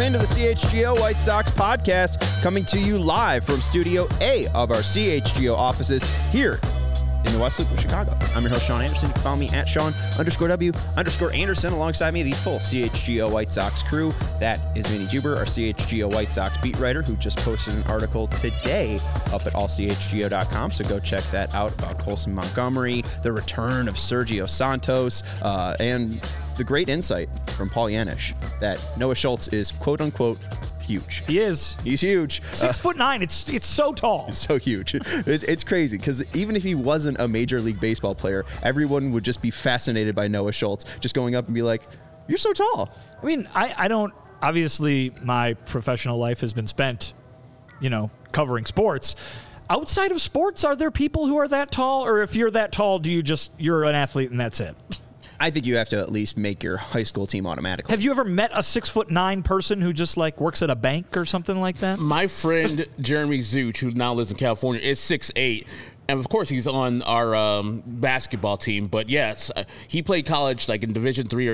into the CHGO White Sox podcast, coming to you live from Studio A of our CHGO offices here in the West Loop of Chicago. I'm your host, Sean Anderson. You can follow me at Sean_W_Anderson. Alongside me, the full CHGO White Sox crew. That is Vinny Juber, our CHGO White Sox beat writer, who just posted an article today up at allchgo.com. So go check that out about Colson Montgomery, the return of Sergio Santos, and the great insight from Paul Yanish that Noah Schultz is quote-unquote huge. He is. He's huge. 6'9". It's so tall. It's so huge. It's crazy because even if he wasn't a Major League Baseball player, everyone would just be fascinated by Noah Schultz, just going up and be like, "You're so tall." I mean, I don't. Obviously, my professional life has been spent, covering sports. Outside of sports, are there people who are that tall, or if you're that tall, you're an athlete and that's it? I think you have to at least make your high school team automatically. Have you ever met a 6'9" person who just works at a bank or something like that? My friend Jeremy Zuch, who now lives in California, is 6'8". And of course, he's on our basketball team. But yes, he played college in Division III or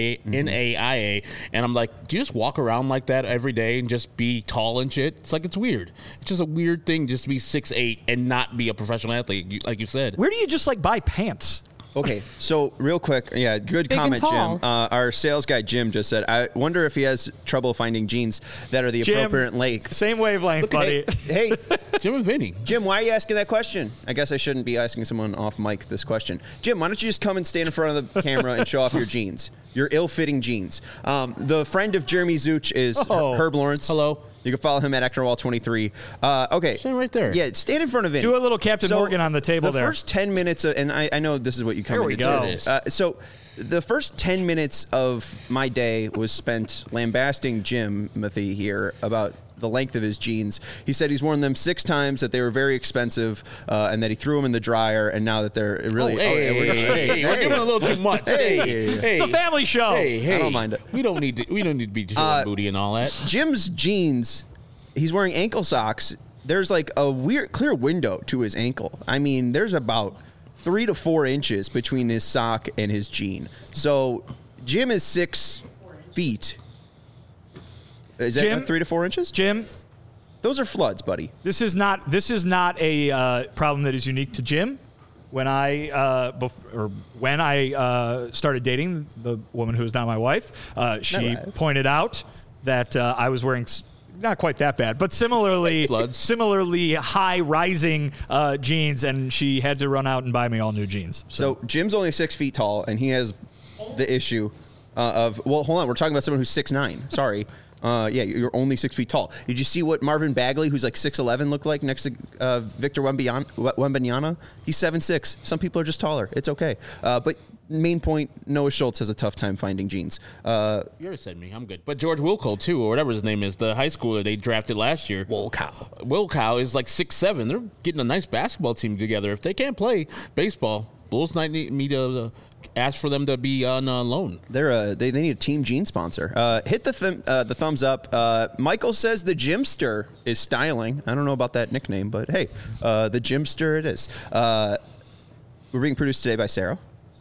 NAIA. And I'm like, do you just walk around like that every day and just be tall and shit? It's weird. It's just a weird thing just to be 6'8" and not be a professional athlete, like you said. Where do you just buy pants? Okay, so real quick, good Big comment, and tall. Jim. Our sales guy, Jim, just said, I wonder if he has trouble finding jeans that are the appropriate length. Same wavelength, buddy. Hey, Jim and Vinny. Jim, why are you asking that question? I guess I shouldn't be asking someone off mic this question. Jim, why don't you just come and stand in front of the camera and show off your jeans? Your ill-fitting jeans. The friend of Jeremy Zuch is Herb Lawrence. Hello. You can follow him at Ecknerwall23. Okay. Stand right there. Yeah, stand in front of it. Do a little Captain Morgan on the table there. The first 10 minutes, and I know this is what you come Here we into. go. So the first 10 minutes of my day was spent lambasting Jim Mathy here about the length of his jeans. He said he's worn them 6 times, that they were very expensive, and that he threw them in the dryer, and now that they're really... We're doing a little too much. Hey. It's a family show. Hey. I don't mind it. We don't need to be showing booty and all that. Jim's jeans, he's wearing ankle socks. There's a weird, clear window to his ankle. I mean, there's about 3 to 4 inches between his sock and his jean. So Jim is 6 feet. Is that 3 to 4 inches? Jim, those are floods, buddy. this is not a problem that is unique to Jim. When I started dating the woman who is now my wife, she pointed out that I was wearing not quite that bad, but similarly high rising jeans, and she had to run out and buy me all new jeans. So Jim's only 6 feet tall, and he has the issue of hold on, we're talking about someone who's 6'9". Sorry. You're only 6 feet tall. Did you see what Marvin Bagley, who's 6'11", looked like next to Victor Wembanyama? He's 7'6". Some people are just taller. It's okay. But main point, Noah Schultz has a tough time finding jeans. You already said me. I'm good. But George Wilco, too, or whatever his name is, the high schooler they drafted last year. Wilcow is 6'7". They're getting a nice basketball team together. If they can't play baseball, Bulls need me to ask for them to be on loan. They need a team jean sponsor. Hit the thumbs up. Michael says the Jimster is styling. I don't know about that nickname, but hey, the Jimster it is. We're being produced today by Sarah.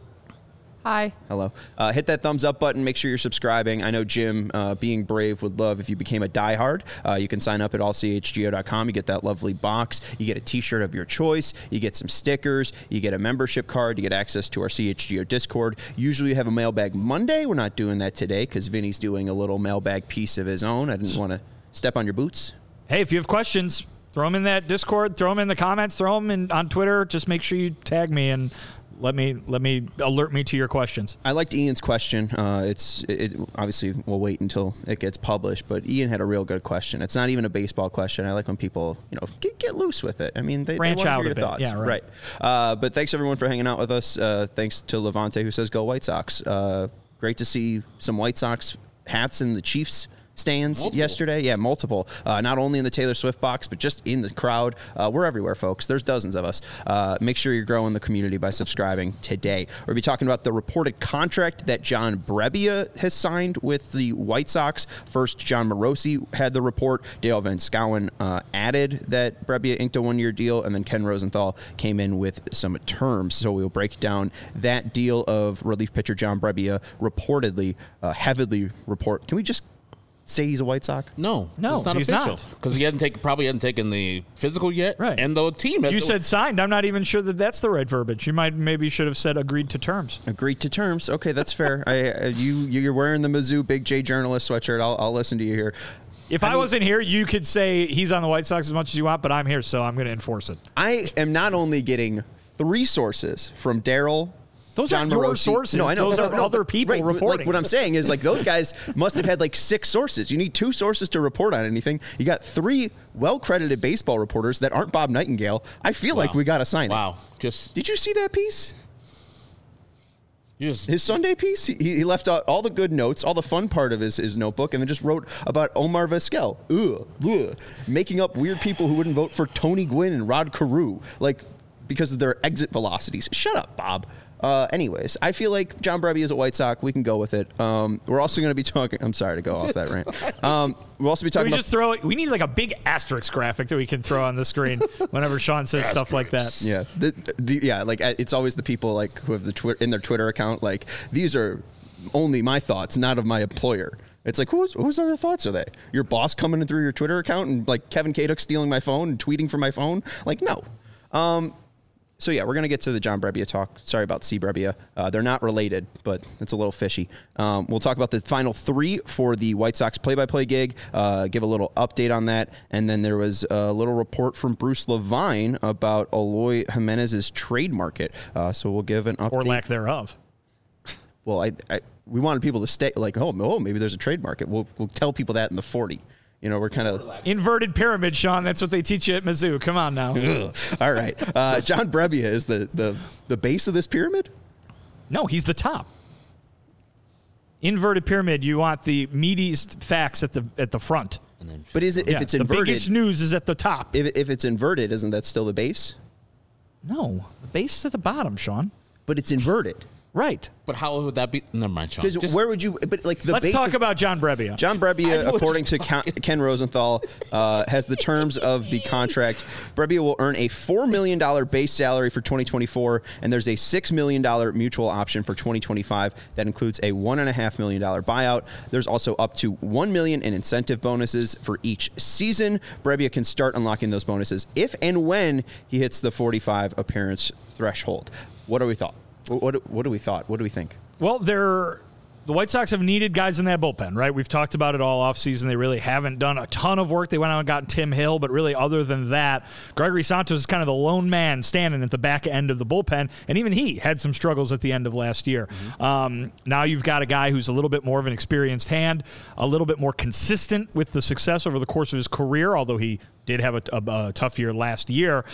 Hi. Hello. Hit that thumbs up button. Make sure you're subscribing. I know Jim, being brave, would love if you became a diehard. You can sign up at allchgo.com. You get that lovely box. You get a T-shirt of your choice. You get some stickers. You get a membership card. You get access to our CHGO Discord. Usually we have a mailbag Monday. We're not doing that today because Vinny's doing a little mailbag piece of his own. I didn't want to step on your boots. Hey, if you have questions, throw them in that Discord. Throw them in the comments. Throw them on Twitter. Just make sure you tag me and let me alert me to your questions. I liked Ian's question. It obviously we'll wait until it gets published, but Ian had a real good question. It's not even a baseball question. I like when people get loose with it. I mean, they want to hear your thoughts. Yeah, right. But thanks everyone for hanging out with us. Thanks to Levante who says go White Sox. Great to see some White Sox hats in the Chiefs stands yesterday. Yeah, multiple. Not only in the Taylor Swift box, but just in the crowd. We're everywhere, folks. There's dozens of us. Make sure you're growing the community by subscribing today. We're going to be talking about the reported contract that John Brebbia has signed with the White Sox. First, John Morosi had the report. Dale Van Schouwen added that Brebbia inked a one-year deal, and then Ken Rosenthal came in with some terms. So we'll break down that deal of relief pitcher John Brebbia reportedly, heavily report. Can we just say he's a White Sox? No, it's not he's official because he probably hadn't taken the physical yet. Right, and the team. You said signed. I'm not even sure that's the right verbiage. You maybe should have said agreed to terms. Agreed to terms. Okay, that's fair. You're wearing the Mizzou Big J journalist sweatshirt. I'll listen to you here. If I wasn't here, you could say he's on the White Sox as much as you want, but I'm here, so I'm going to enforce it. I am not only getting 3 sources from Daryl. Those John aren't your Morosi. sources. No, I know. Those are other people reporting. Like, what I'm saying is, like, those guys must have had like 6 sources. You need 2 sources to report on anything. You got 3 well-credited baseball reporters that aren't Bob Nightingale. I feel like we got to sign it. Wow. Did you see that piece? His Sunday piece? He left out all the good notes, all the fun part of his notebook, and then just wrote about Omar Vizquel. Making up weird people who wouldn't vote for Tony Gwynn and Rod Carew, like, because of their exit velocities. Shut up, Bob. Anyways, I feel like John Brebbia is a White Sox. We can go with it. We're also going to be talking. I'm sorry to go off that rant. We'll also be talking about. We need like a big asterisk graphic that we can throw on the screen whenever Sean says stuff like that. Yeah, like it's always the people like who have the in their Twitter account. Like, these are only my thoughts, not of my employer. It's like, whose other thoughts are they? Your boss coming in through your Twitter account and like Kevin Kaduk stealing my phone and tweeting from my phone? Like, no. So, yeah, we're going to get to the John Brebbia talk. Sorry about C. Brebbia. They're not related, but it's a little fishy. We'll talk about the final 3 for the White Sox play-by-play gig, give a little update on that. And then there was a little report from Bruce Levine about Eloy Jimenez's trade market. So we'll give an update. Or lack thereof. Well, we wanted people to stay like, oh, maybe there's a trade market. We'll tell people that in the 40. You know, we're kind of inverted pyramid, Sean. That's what they teach you at Mizzou. Come on now. All right. John Brebbia is the base of this pyramid? No, he's the top. Inverted pyramid. You want the meatiest facts at the front. But is it if it's inverted? The biggest news is at the top. If it's inverted, isn't that still the base? No, the base is at the bottom, Sean. But it's inverted. Right. But how would that be? Never mind, Sean. Because where would you? But like the let's talk about John Brebbia. John Brebbia, according to Ken Rosenthal, has the terms of the contract. Brebbia will earn a $4 million base salary for 2024, and there's a $6 million mutual option for 2025 that includes a $1.5 million buyout. There's also up to $1 million in incentive bonuses for each season. Brebbia can start unlocking those bonuses if and when he hits the 45 appearance threshold. What do we thought? What do we thought? What do we think? Well, the White Sox have needed guys in that bullpen, right? We've talked about it all offseason. They really haven't done a ton of work. They went out and got Tim Hill, but really other than that, Gregory Santos is kind of the lone man standing at the back end of the bullpen, and even he had some struggles at the end of last year. Mm-hmm. Now you've got a guy who's a little bit more of an experienced hand, a little bit more consistent with the success over the course of his career, although he did have a tough year last year.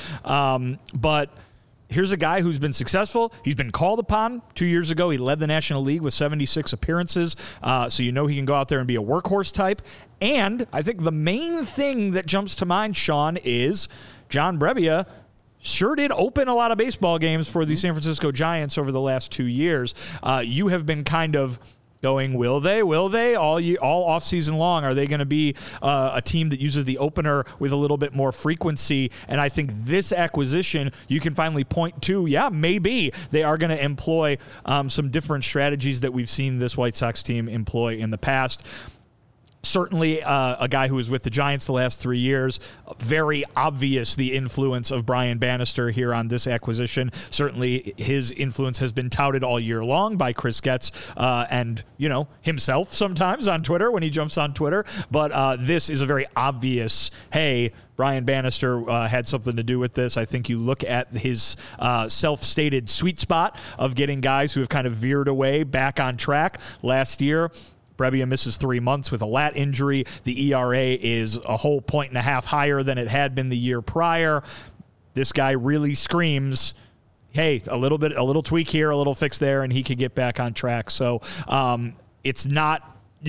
But here's a guy who's been successful. He's been called upon 2 years ago. He led the National League with 76 appearances. So you know he can go out there and be a workhorse type. And I think the main thing that jumps to mind, Sean, is John Brebbia sure did open a lot of baseball games for the San Francisco Giants over the last 2 years. You have been kind of going, will they all offseason long? Are they going to be a team that uses the opener with a little bit more frequency? And I think this acquisition, you can finally point to, maybe they are going to employ some different strategies that we've seen this White Sox team employ in the past. Certainly a guy who was with the Giants the last 3 years. Very obvious the influence of Brian Bannister here on this acquisition. Certainly his influence has been touted all year long by Chris Getz and, himself sometimes on Twitter when he jumps on Twitter. But this is a very obvious, hey, Brian Bannister had something to do with this. I think you look at his self-stated sweet spot of getting guys who have kind of veered away back on track. Last year, Brebbia misses 3 months with a lat injury. The ERA is a whole 1.5 higher than it had been the year prior. This guy really screams, hey, a little tweak here, a little fix there, and he could get back on track. So it's not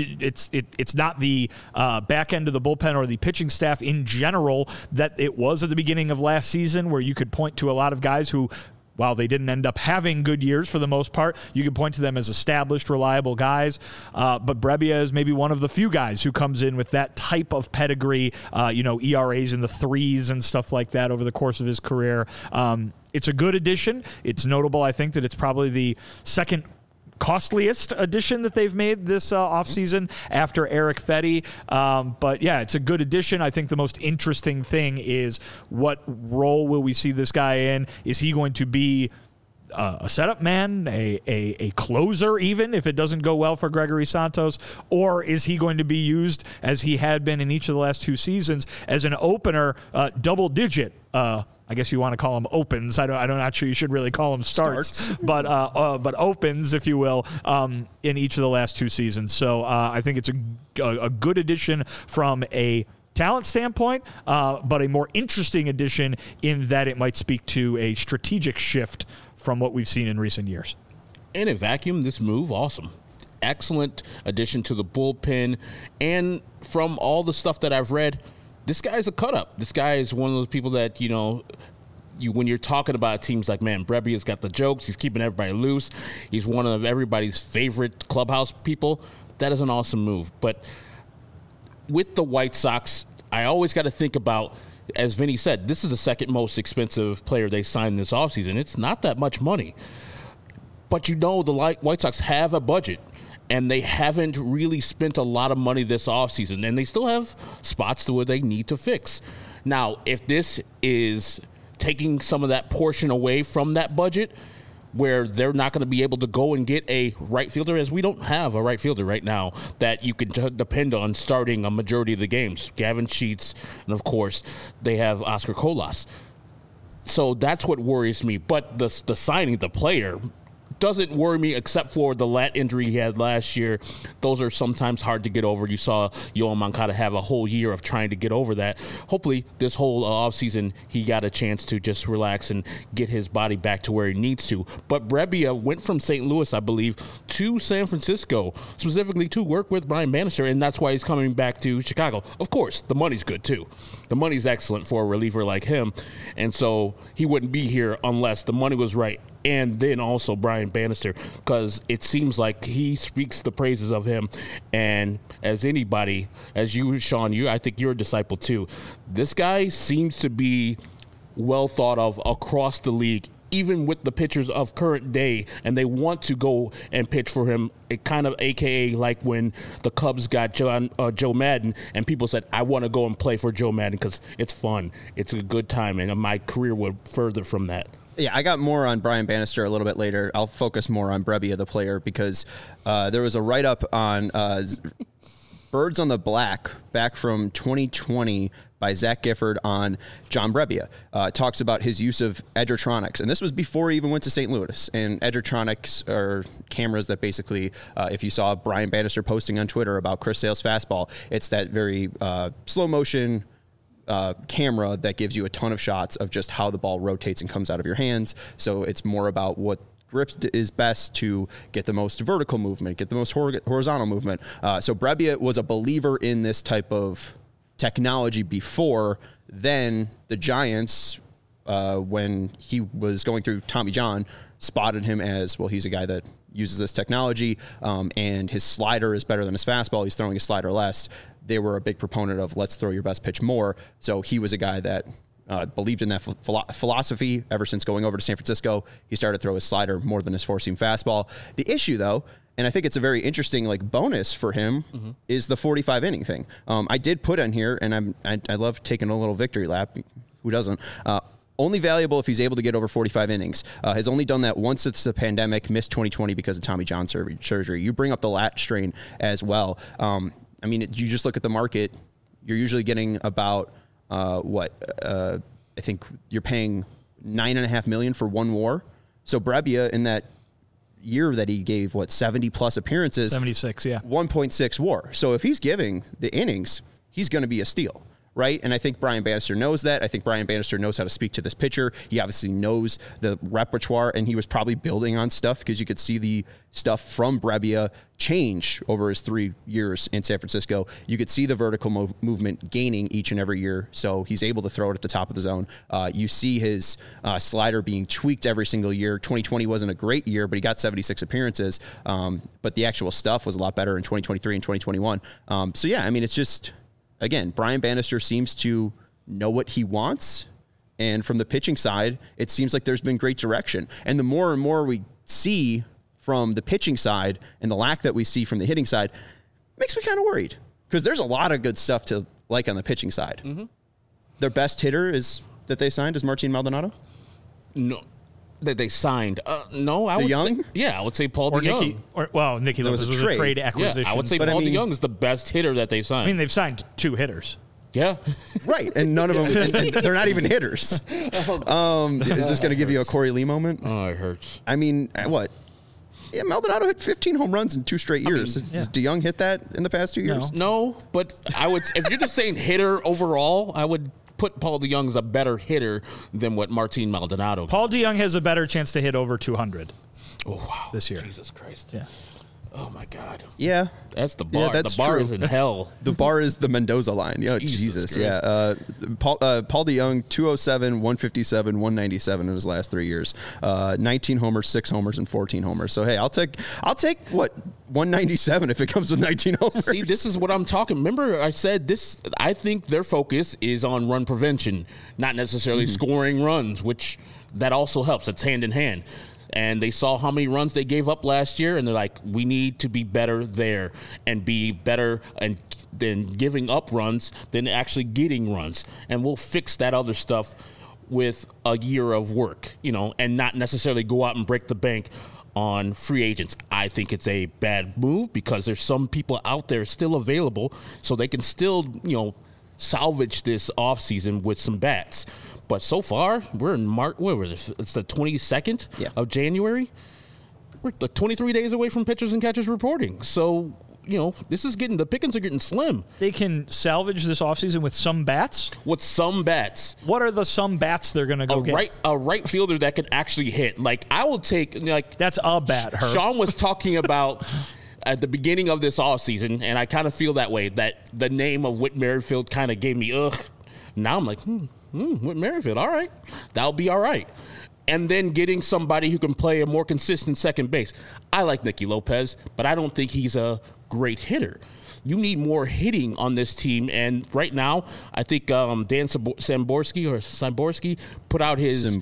the back end of the bullpen or the pitching staff in general that it was at the beginning of last season, where you could point to a lot of guys who, while they didn't end up having good years for the most part, you can point to them as established, reliable guys. But Brebbia is maybe one of the few guys who comes in with that type of pedigree, ERAs in the 3s and stuff like that over the course of his career. It's a good addition. It's notable, I think, that it's probably the second costliest addition that they've made this offseason after Eric Fetty. But yeah, it's a good addition. I think the most interesting thing is what role will we see this guy in? Is he going to be a setup man, a closer, even if it doesn't go well for Gregory Santos, or is he going to be used as he had been in each of the last 2 seasons as an opener, double digit? I guess you want to call them opens. I'm not sure you should really call them starts. but opens, if you will, in each of the last 2 seasons. So I think it's a good addition from a talent standpoint, but a more interesting addition in that it might speak to a strategic shift from what we've seen in recent years. In a vacuum, this move, awesome. Excellent addition to the bullpen. And from all the stuff that I've read, this guy's a cut-up. This guy is one of those people that, when you're talking about teams like, man, Brebbia's got the jokes. He's keeping everybody loose. He's one of everybody's favorite clubhouse people. That is an awesome move. But with the White Sox, I always got to think about, as Vinny said, this is the second most expensive player they signed this offseason. It's not that much money. But the White Sox have a budget, and they haven't really spent a lot of money this offseason, and they still have spots where they need to fix. Now, if this is taking some of that portion away from that budget, where they're not going to be able to go and get a right fielder, as we don't have a right fielder right now that you can depend on starting a majority of the games. Gavin Sheets, and of course, they have Oscar Colas. So that's what worries me. But the signing, the player, doesn't worry me except for the lat injury he had last year. Those are sometimes hard to get over. You saw Yoan Moncada have a whole year of trying to get over that. Hopefully, this whole offseason, he got a chance to just relax and get his body back to where he needs to. But Brebbia went from St. Louis, I believe, to San Francisco, specifically to work with Brian Bannister, and that's why he's coming back to Chicago. Of course, the money's good, too. The money's excellent for a reliever like him, and so he wouldn't be here unless the money was right. And then also Brian Bannister, because it seems like he speaks the praises of him. And as anybody, as you, Sean, I think you're a disciple too. This guy seems to be well thought of across the league, even with the pitchers of current day, and they want to go and pitch for him. It kind of AKA like when the Cubs got Joe Madden, and people said, I want to go and play for Joe Madden because it's fun. It's a good time, and my career would further from that. Yeah, I got more on Brian Bannister a little bit later. I'll focus more on Brebbia, the player, because there was a write-up on Birds on the Black back from 2020 by Zach Gifford on John Brebbia. Talks about his use of Edgertronics. And this was before he even went to St. Louis. And Edgertronics are cameras that basically, if you saw Brian Bannister posting on Twitter about Chris Sale's fastball, it's that very slow motion camera that gives you a ton of shots of just how the ball rotates and comes out of your hands. So it's more about what grip is best to get the most vertical movement, get the most horizontal movement. So Brebbia was a believer in this type of technology before. Then the Giants, when he was going through Tommy John, spotted him as, well, he's a guy that uses this technology, and his slider is better than his fastball. He's throwing his slider less. They were a big proponent of let's throw your best pitch more. So he was a guy that believed in that philosophy ever since going over to San Francisco. He started to throw his slider more than his four-seam fastball. The issue, though, and I think it's a very interesting bonus for him, is the 45-inning thing. I did put on here, and I love taking a little victory lap. Who doesn't? Only valuable if he's able to get over 45 innings. Has only done that once since the pandemic, missed 2020 because of Tommy John surgery. You bring up the lat strain as well. You just look at the market, you're usually getting about, I think you're paying $9.5 million for one WAR. So Brebbia, in that year that he gave, 70-plus appearances? 76, yeah. 1.6 WAR. So if he's giving the innings, he's going to be a steal. Right? And I think Brian Bannister knows that. I think Brian Bannister knows how to speak to this pitcher. He obviously knows the repertoire, and he was probably building on stuff because you could see the stuff from Brebbia change over his 3 years in San Francisco. You could see the vertical movement gaining each and every year, so he's able to throw it at the top of the zone. You see his slider being tweaked every single year. 2020 wasn't a great year, but he got 76 appearances. But the actual stuff was a lot better in 2023 and 2021. It's just... Again, Brian Bannister seems to know what he wants, and from the pitching side, it seems like there's been great direction. And the more and more we see from the pitching side and the lack that we see from the hitting side makes me kind of worried because there's a lot of good stuff to like on the pitching side. Mm-hmm. Their best hitter that they signed is Martin Maldonado? No. That they signed. No, I would DeYoung? say, I would say Paul DeYoung. Nicky Lopez was a trade acquisition. Yeah, I would say Paul DeYoung is the best hitter that they've signed. I mean, they've signed 2 hitters. Yeah. Right, and none of them, and they're not even hitters. Is this going to give you a Corey Lee moment? Oh, it hurts. I mean, what? Yeah, Maldonado hit 15 home runs in 2 straight years. Has DeYoung hit that in the past 2 years? No, but I would. If you're just saying hitter overall, I would put Paul DeYoung as a better hitter than what Martin Maldonado. Paul DeYoung has a better chance to hit over 200. Oh wow! This year, Jesus Christ! Yeah. Oh my God! Yeah, that's the bar. Yeah, that's the bar true. is in hell. The bar is the Mendoza line. Yeah, Jesus. Yeah. Paul DeYoung, 207, 157, 197 in his last 3 years. 19 homers, 6 homers, and 14 homers. So hey, I'll take what 197 if it comes with 19 homers. See, this is what I'm talking. Remember, I said this. I think their focus is on run prevention, not necessarily scoring runs, which that also helps. It's hand in hand. And they saw how many runs they gave up last year, and they're like, we need to be better there and be better than giving up runs than actually getting runs. And we'll fix that other stuff with a year of work, and not necessarily go out and break the bank on free agents. I think it's a bad move because there's some people out there still available, so they can still, salvage this offseason with some bats. But so far, we're in March. It's the 22nd of January. We're 23 days away from pitchers and catchers reporting. So, this is the pickings are getting slim. They can salvage this offseason with some bats? With some bats. What are the some bats they're going to go get? A right fielder that can actually hit. Like, I will take, that's a bat, Herb. Sean was talking about at the beginning of this offseason, and I kind of feel that way, that the name of Whit Merrifield kind of gave me, ugh. Now I'm like, Whit Merrifield, all right. That'll be all right. And then getting somebody who can play a more consistent second base. I like Nicky Lopez, but I don't think he's a great hitter. You need more hitting on this team. And right now, I think Dan Szymborski put out his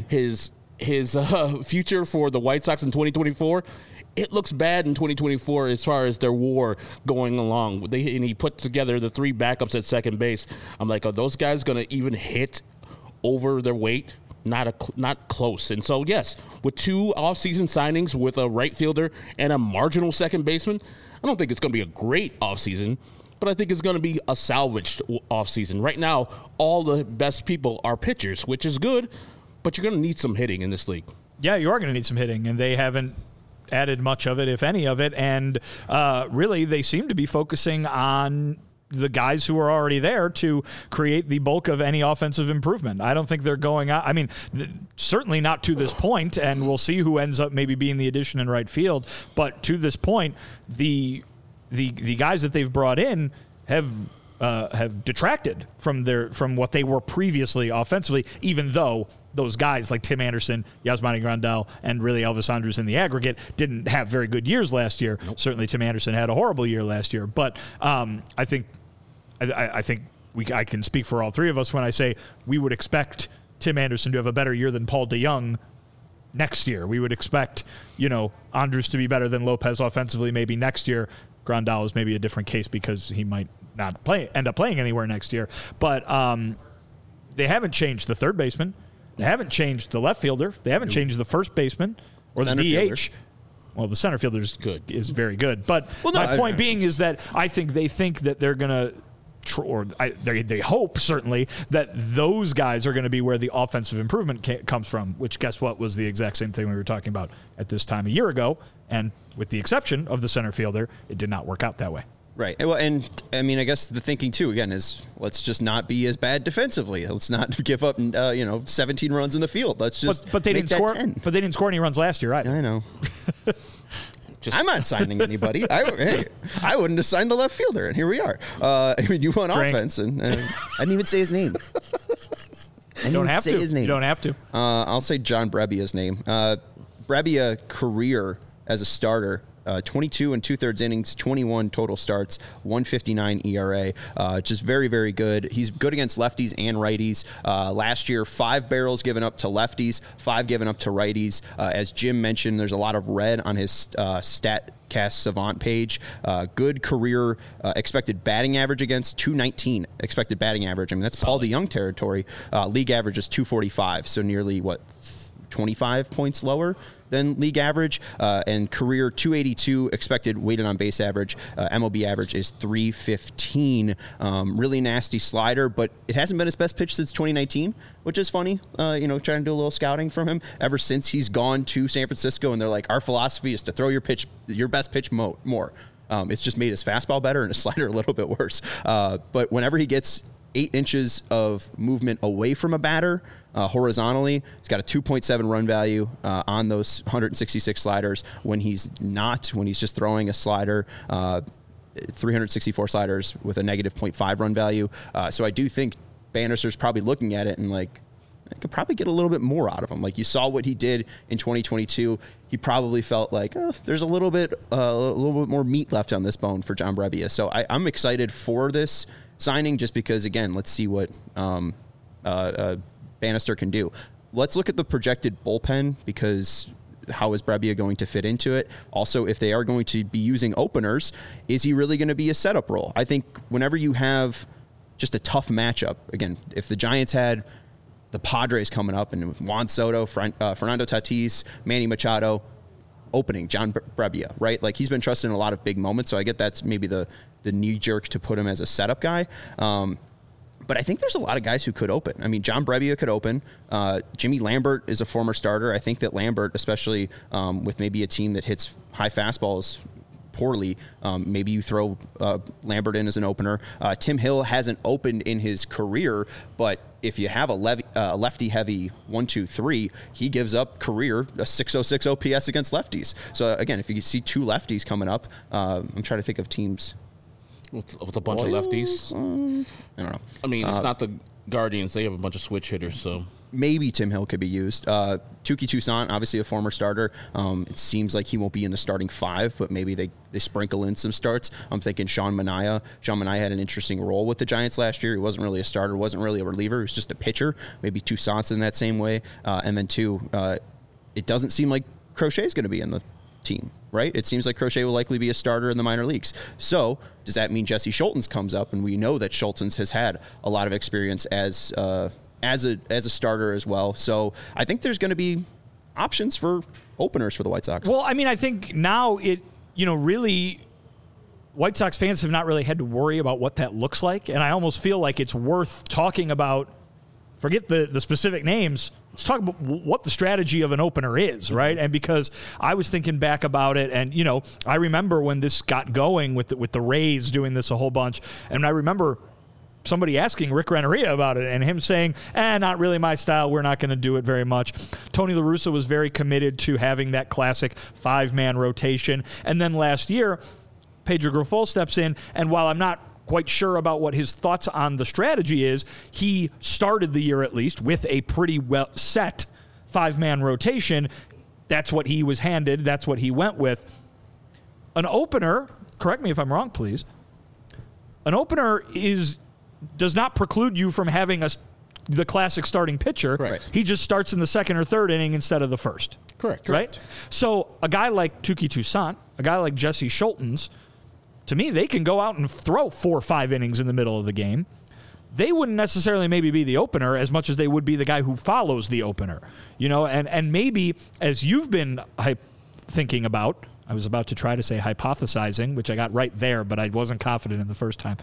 future for the White Sox in 2024. It looks bad in 2024 as far as their WAR going along. And he put together the 3 backups at second base. I'm like, are those guys going to even hit over their weight? Not close. And so, yes, with 2 offseason signings with a right fielder and a marginal second baseman, I don't think it's going to be a great offseason, but I think it's going to be a salvaged offseason. Right now, all the best people are pitchers, which is good, but you're going to need some hitting in this league. Yeah, you are going to need some hitting, and they haven't added much of it, if any of it, and really they seem to be focusing on the guys who are already there to create the bulk of any offensive improvement. I don't think they're going out. I mean, certainly not to this point, and we'll see who ends up maybe being the addition in right field, but to this point, the guys that they've brought in have detracted from what they were previously offensively, even though those guys like Tim Anderson, Yasmani Grandal, and really Elvis Andrus in the aggregate didn't have very good years last year. Nope. Certainly Tim Anderson had a horrible year last year. But I think I can speak for all 3 of us when I say we would expect Tim Anderson to have a better year than Paul DeYoung next year. We would expect, Andrus to be better than Lopez offensively maybe next year. Grandal is maybe a different case because he might not end up playing anywhere next year. But they haven't changed the third baseman. They haven't changed the left fielder. They haven't changed the first baseman or the DH. Well, the center fielder is very good. But my point being is that I think they think that they're going to they hope, certainly, that those guys are going to be where the offensive improvement comes from, which, guess what, was the exact same thing we were talking about at this time a year ago. And with the exception of the center fielder, it did not work out that way. Right. Well, and I mean, I guess the thinking too, again, is let's just not be as bad defensively. Let's not give up, 17 runs in the field. Let's just but they didn't score 10. But they didn't score any runs last year either. I know. I'm not signing anybody. I wouldn't have signed the left fielder, and here we are. You want offense, and I didn't even say his name. You don't have to. You don't have to. I'll say John Brebbia's name. Brebbia career as a starter, 22 and 2/3 innings, 21 total starts, 1.59 ERA. Just very, very good. He's good against lefties and righties. Last year, 5 barrels given up to lefties, 5 given up to righties. As Jim mentioned, there's a lot of red on his StatCast Savant page. Good career expected batting average against, 219 expected batting average. I mean, that's Paul DeJong territory. League average is 245, so nearly 25 points lower than league average, and career 282 expected weighted on base average. MLB average is 315. Really nasty slider, but it hasn't been his best pitch since 2019, which is funny. Trying to do a little scouting from him ever since he's gone to San Francisco, and they're like, our philosophy is to throw your best pitch more. It's just made his fastball better and his slider a little bit worse. But whenever he gets 8 inches of movement away from a batter horizontally, he's got a 2.7 run value on those 166 sliders. When he's just throwing a slider, 364 sliders with a negative 0.5 run value. So I do think Bannister's probably looking at it and I could probably get a little bit more out of him. Like, you saw what he did in 2022. He probably felt like there's a little bit more meat left on this bone for John Brebbia. So I'm excited for this signing, just because, again, let's see what Bannister can do. Let's look at the projected bullpen, because how is Brebbia going to fit into it? Also, if they are going to be using openers, is he really going to be a setup role? I think whenever you have just a tough matchup, again, if the Giants had the Padres coming up and Juan Soto, Fernando Tatis, Manny Machado opening, John Brebbia, right? Like, he's been trusted in a lot of big moments, so I get that's maybe the knee jerk to put him as a setup guy. But I think there's a lot of guys who could open. I mean, John Brebbia could open. Jimmy Lambert is a former starter. I think that Lambert, especially with maybe a team that hits high fastballs poorly, maybe you throw Lambert in as an opener. Tim Hill hasn't opened in his career, but if you have a lefty-heavy 1-2-3, he gives up career a 606 OPS against lefties. So, again, if you see 2 lefties coming up, I'm trying to think of teams. With a bunch of lefties? I don't know. I mean, it's not the Guardians. They have a bunch of switch hitters, so... Maybe Tim Hill could be used. Touki Toussaint, obviously a former starter. It seems like he won't be in the starting 5, but maybe they sprinkle in some starts. I'm thinking Sean Manaea. Sean Manaea had an interesting role with the Giants last year. He wasn't really a starter, wasn't really a reliever. He was just a pitcher. Maybe Toussaint's in that same way. And then, it doesn't seem like Crochet's going to be in the team, right? It seems like Crochet will likely be a starter in the minor leagues. So does that mean Jesse Schultens comes up? And we know that Schultens has had a lot of experience as a starter as well. So I think there's going to be options for openers for the White Sox. Well, I mean, I think now really White Sox fans have not really had to worry about what that looks like. And I almost feel like it's worth talking about, forget the specific names, let's talk about what the strategy of an opener is, right? And because I was thinking back about it, and, I remember when this got going with the Rays doing this a whole bunch, and I remember somebody asking Rick Renneria about it and him saying, not really my style. We're not going to do it very much. Tony La Russa was very committed to having that classic 5-man rotation. And then last year, Pedro Grifol steps in, and while I'm not quite sure about what his thoughts on the strategy is, he started the year at least with a pretty well set 5-man rotation. That's what he was handed. That's what he went with. An opener, correct me if I'm wrong, please. An opener does not preclude you from having the classic starting pitcher. Correct. He just starts in the 2nd or 3rd inning instead of the 1st. Correct. Right? So a guy like Touki Toussaint, a guy like Jesse Schultens, to me, they can go out and throw 4 or 5 innings in the middle of the game. They wouldn't necessarily maybe be the opener as much as they would be the guy who follows the opener. And maybe, as you've been thinking about, I was about to try to say hypothesizing, which I got right there, but I wasn't confident in the first time.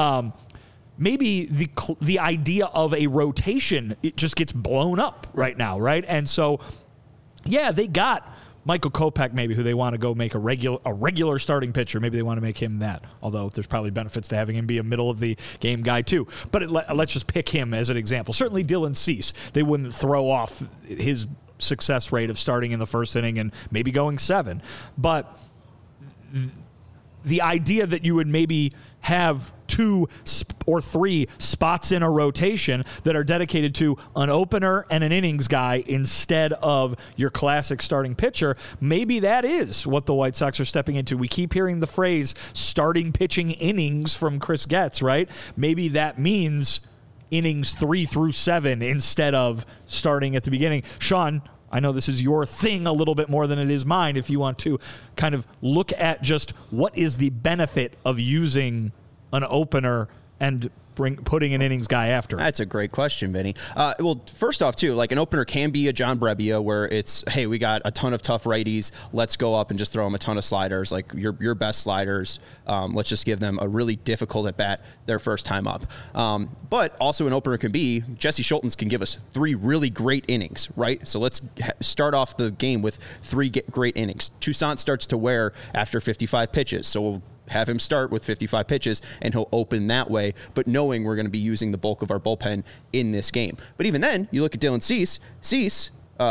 Maybe the idea of a rotation, it just gets blown up right now, right? And so, yeah, they got Michael Kopech, maybe, who they want to go make a regular starting pitcher. Maybe they want to make him that, although there's probably benefits to having him be a middle-of-the-game guy, too. But let's just pick him as an example. Certainly Dylan Cease. They wouldn't throw off his success rate of starting in the 1st inning and maybe going 7. But the idea that you would maybe have 2 or 3 spots in a rotation that are dedicated to an opener and an innings guy instead of your classic starting pitcher, maybe that is what the White Sox are stepping into. We keep hearing the phrase starting pitching innings from Chris Getz, right? Maybe that means innings 3 through 7 instead of starting at the beginning. Sean, I know this is your thing a little bit more than it is mine. If you want to kind of look at just what is the benefit of using an opener and putting an innings guy after. That's a great question, Vinny. Well, first off, too, like an opener can be a John Brebbia where it's, hey, we got a ton of tough righties. Let's go up and just throw them a ton of sliders, like your best sliders. Let's just give them a really difficult at bat their first time up. But also an opener can be, Jesse Schultens can give us 3 really great innings, right? So let's start off the game with 3 great innings. Toussaint starts to wear after 55 pitches, so we'll have him start with 55 pitches, and he'll open that way, but knowing we're going to be using the bulk of our bullpen in this game. But even then, you look at Dylan Cease,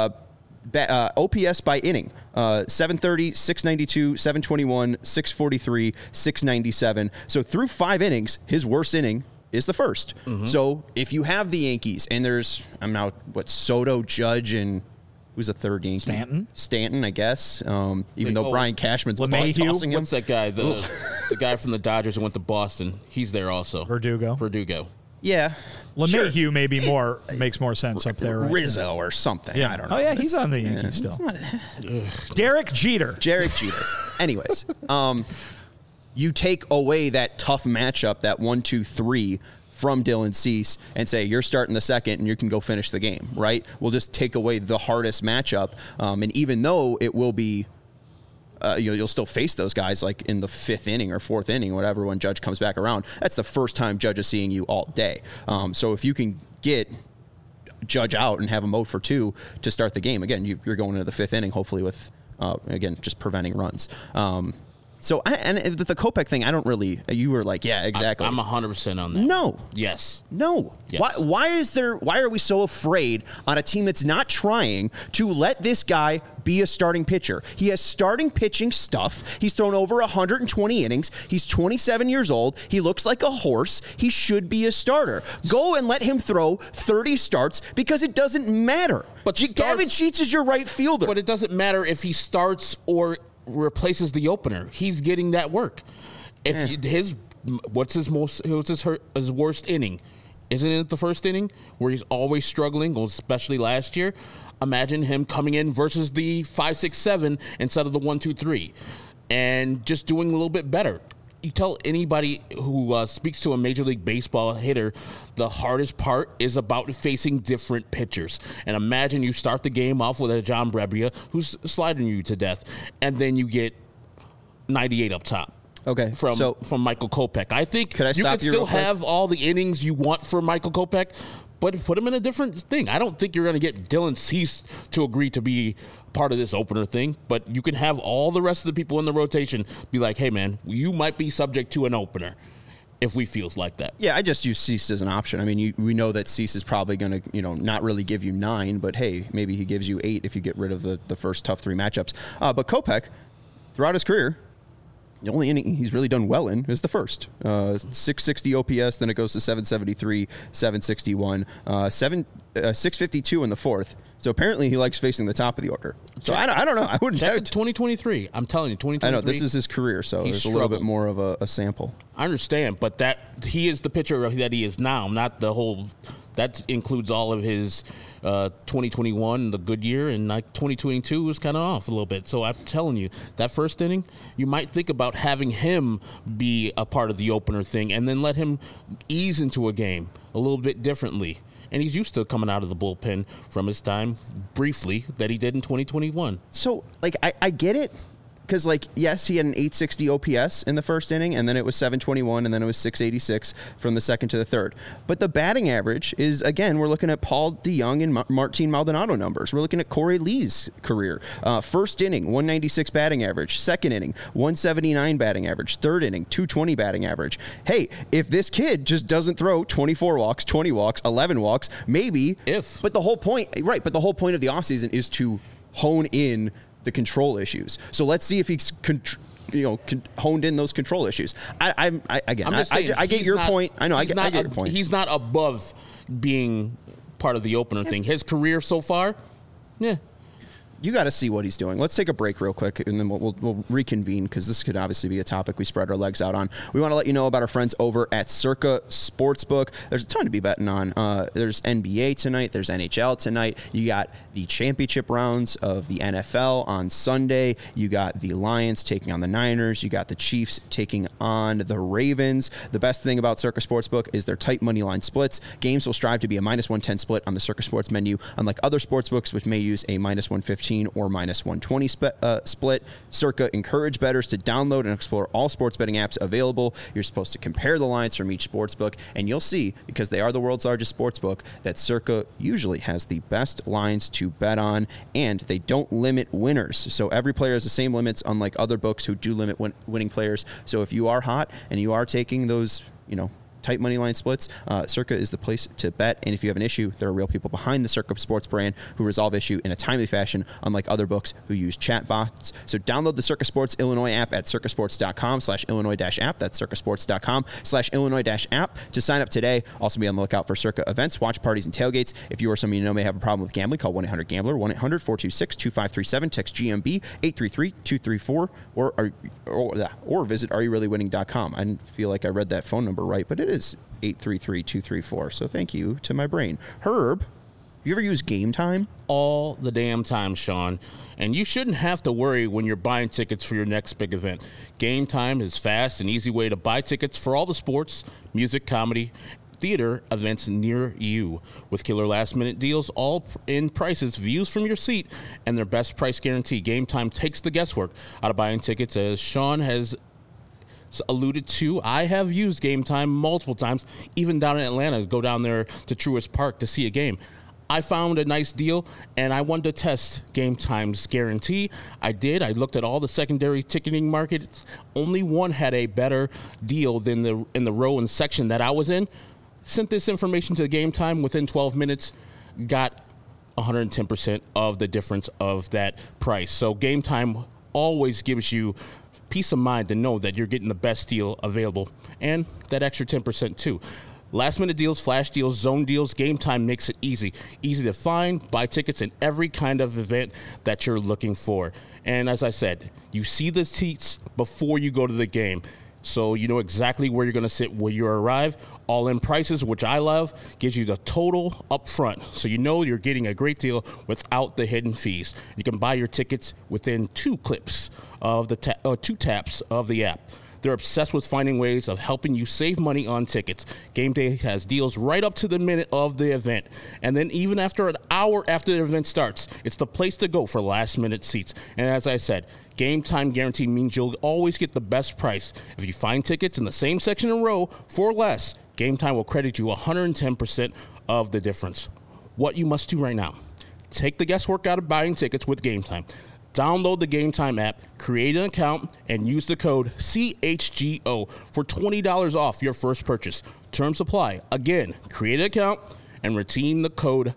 OPS by inning, 730, 692, 721, 643, 697. So through 5 innings, his worst inning is the first. Mm-hmm. So if you have the Yankees, and there's, Soto, Judge, and who's a third Yankee? Stanton, I guess. Even though Brian Cashman's tossing him. What's that guy? The guy from the Dodgers who went to Boston. He's there also. Verdugo. Yeah. LeMahieu sure. Maybe makes more sense up there. Right? Rizzo or something. Yeah. I don't know. Oh, yeah, he's on the Yankees still. Derek Jeter. Anyways, you take away that tough matchup, that 1-2-3 from Dylan Cease, and say, you're starting the second and you can go finish the game, right? We'll just take away the hardest matchup. And even though it will be, you'll still face those guys like in the 5th inning or 4th inning, whatever, when Judge comes back around. That's the first time Judge is seeing you all day. So if you can get Judge out and have him out for 2 to start the game, again, you're going into the 5th inning, hopefully with, again, just preventing runs. So, and the Kopech thing, I don't really, you were like, yeah, exactly. I'm 100% on that. No. Yes. No. Yes. Why are we so afraid on a team that's not trying to let this guy be a starting pitcher? He has starting pitching stuff. He's thrown over 120 innings. He's 27 years old. He looks like a horse. He should be a starter. Go and let him throw 30 starts because it doesn't matter. But Gavin Sheets is your right fielder. But it doesn't matter if he starts or replaces the opener. He's getting that work. If what's his worst inning? Isn't it the first inning where he's always struggling, especially last year? Imagine him coming in versus the 5, 6, 7 instead of the 1, 2, 3, and just doing a little bit better. You tell anybody who speaks to a Major League Baseball hitter, the hardest part is about facing different pitchers. And imagine you start the game off with a John Brebbia who's sliding you to death, and then you get 98 up top. Okay, from Michael Kopech. I think you can still have all the innings you want for Michael Kopech, but put him in a different thing. I don't think you're going to get Dylan Cease to agree to be part of this opener thing, but you can have all the rest of the people in the rotation be like, hey, man, you might be subject to an opener if we feels like that. Yeah, I just use Cease as an option. I mean, we know that Cease is probably going to, not really give you 9, but hey, maybe he gives you 8 if you get rid of the first tough 3 matchups. But Kopech, throughout his career, the only inning he's really done well in is the first. 660 OPS, then it goes to 773, 761, 652 in the 4th. So apparently he likes facing the top of the order. So I don't know. I wouldn't check 2023. I'm telling you, 2023. I know this is his career, so there's a little bit more of a sample. I understand, but that he is the pitcher that he is now, not the whole. That includes all of his 2021, the good year, and like 2022 was kind of off a little bit. So I'm telling you, that first inning, you might think about having him be a part of the opener thing, and then let him ease into a game a little bit differently. And he's used to coming out of the bullpen from his time, briefly, that he did in 2021. So, I get it. Because, yes, he had an 860 OPS in the first inning, and then it was 721, and then it was 686 from the second to the third. But the batting average is, again, we're looking at Paul DeJong and Martin Maldonado numbers. We're looking at Corey Lee's career. First inning, 196 batting average. Second inning, 179 batting average. Third inning, 220 batting average. Hey, if this kid just doesn't throw 24 walks, 20 walks, 11 walks, maybe. But the whole point of the offseason is to hone in the control issues. So let's see if he's honed in those control issues. I get your point. I know. I get your point. He's not above being part of the opener thing. His career so far, yeah. You got to see what he's doing. Let's take a break real quick, and then we'll reconvene because this could obviously be a topic we spread our legs out on. We want to let you know about our friends over at Circa Sportsbook. There's a ton to be betting on. There's NBA tonight. There's NHL tonight. You got the championship rounds of the NFL on Sunday. You got the Lions taking on the Niners. You got the Chiefs taking on the Ravens. The best thing about Circa Sportsbook is their tight money line splits. Games will strive to be a -110 split on the Circa Sports menu, unlike other sportsbooks, which may use a -115 or -120 split. Circa encourage bettors to download and explore all sports betting apps available. You're supposed to compare the lines from each sportsbook, and you'll see, because they are the world's largest sportsbook, that Circa usually has the best lines to bet on, and they don't limit winners. So every player has the same limits, unlike other books who do limit winning players. So if you are hot and you are taking those, tight money line splits, Circa is the place to bet. And if you have an issue, there are real people behind the Circa Sports brand who resolve issue in a timely fashion, unlike other books who use chat bots. So download the Circa Sports Illinois app at circasports.com/Illinois-app. That's circasports.com/Illinois-app to sign up today. Also be on the lookout for Circa events, watch parties, and tailgates. If you or someone you know may have a problem with gambling, call 1-800-GAMBLER, 1-800-426-2537, text GMB 833-234, or visit areyourreallywinning.com. I didn't feel like I read that phone number right, but it is 833-234. So thank you to my brain. Herb, you ever use Game Time? All the damn time, Sean. And you shouldn't have to worry when you're buying tickets for your next big event. Game Time is fast and easy way to buy tickets for all the sports, music, comedy, theater events near you. With killer last-minute deals, all in prices, views from your seat, and their best price guarantee. Game Time takes the guesswork out of buying tickets, as Sean has alluded to. I have used Game Time multiple times, even down in Atlanta, go down there to Truist Park to see a game. I found a nice deal, and I wanted to test Game Time's guarantee. I did. I looked at all the secondary ticketing markets. Only one had a better deal than in the row and section that I was in. Sent this information to Game Time within 12 minutes, got 110% of the difference of that price. So Game Time always gives you peace of mind to know that you're getting the best deal available, and that extra 10% too. Last minute deals, flash deals, zone deals, Game Time makes it easy to find, buy tickets in every kind of event that you're looking for. And as I said, you see the seats before you go to the game, so you know exactly where you're going to sit when you arrive. All in prices, which I love, gives you the total up front, so you know you're getting a great deal without the hidden fees. You can buy your tickets within 2 taps of the app. They're obsessed with finding ways of helping you save money on tickets. Game Day has deals right up to the minute of the event. And then even after an hour after the event starts, it's the place to go for last-minute seats. And as I said, Game Time guarantee means you'll always get the best price. If you find tickets in the same section and row for less, Game Time will credit you 110% of the difference. What you must do right now, take the guesswork out of buying tickets with Game Time. Download the Game Time app, create an account, and use the code CHGO for $20 off your first purchase. Terms apply. Again, create an account and redeem the code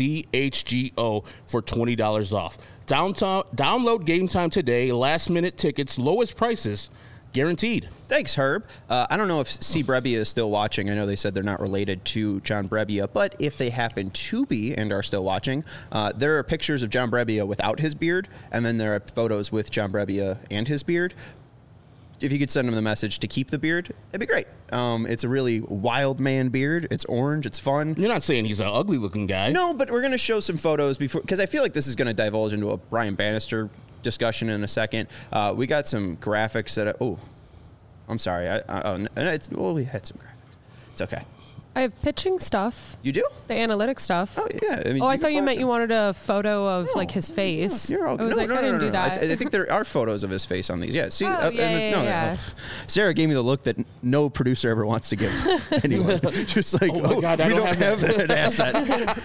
CHGO for $20 off. Download Game Time today. Last minute tickets, lowest prices, guaranteed. Thanks, Herb. I don't know if C. Brebbia is still watching. I know they said they're not related to John Brebbia, but if they happen to be and are still watching, there are pictures of John Brebbia without his beard, and then there are photos with John Brebbia and his beard. If you could send him the message to keep the beard, it'd be great. It's a really wild man beard. It's orange. It's fun. You're not saying he's an ugly looking guy. No, but we're going to show some photos before, because I feel like this is going to divulge into a Brian Bannister discussion in a second. We got some graphics that, I'm sorry. We had some graphics. It's okay. I have pitching stuff. You do? The analytic stuff. Oh, yeah. I mean, I thought you meant you wanted a photo of his face. You're all, I was I didn't do that. I think there are photos of his face on these. Yeah. See, yeah. Sarah gave me the look that no producer ever wants to give anyone. Just like, my God, I don't have that asset.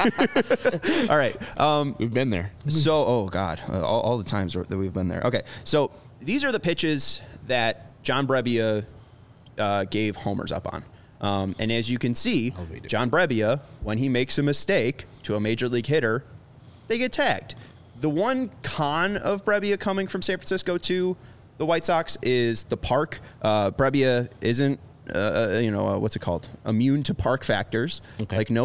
All right. We've been there. So, all the times that we've been there. Okay. So these are the pitches that John Brebbia gave homers up on. And as you can see, John Brebbia, when he makes a mistake to a major league hitter, they get tagged. The one con of Brebbia coming from San Francisco to the White Sox is the park. Brebbia isn't, what's it called? Immune to park factors. Okay. Like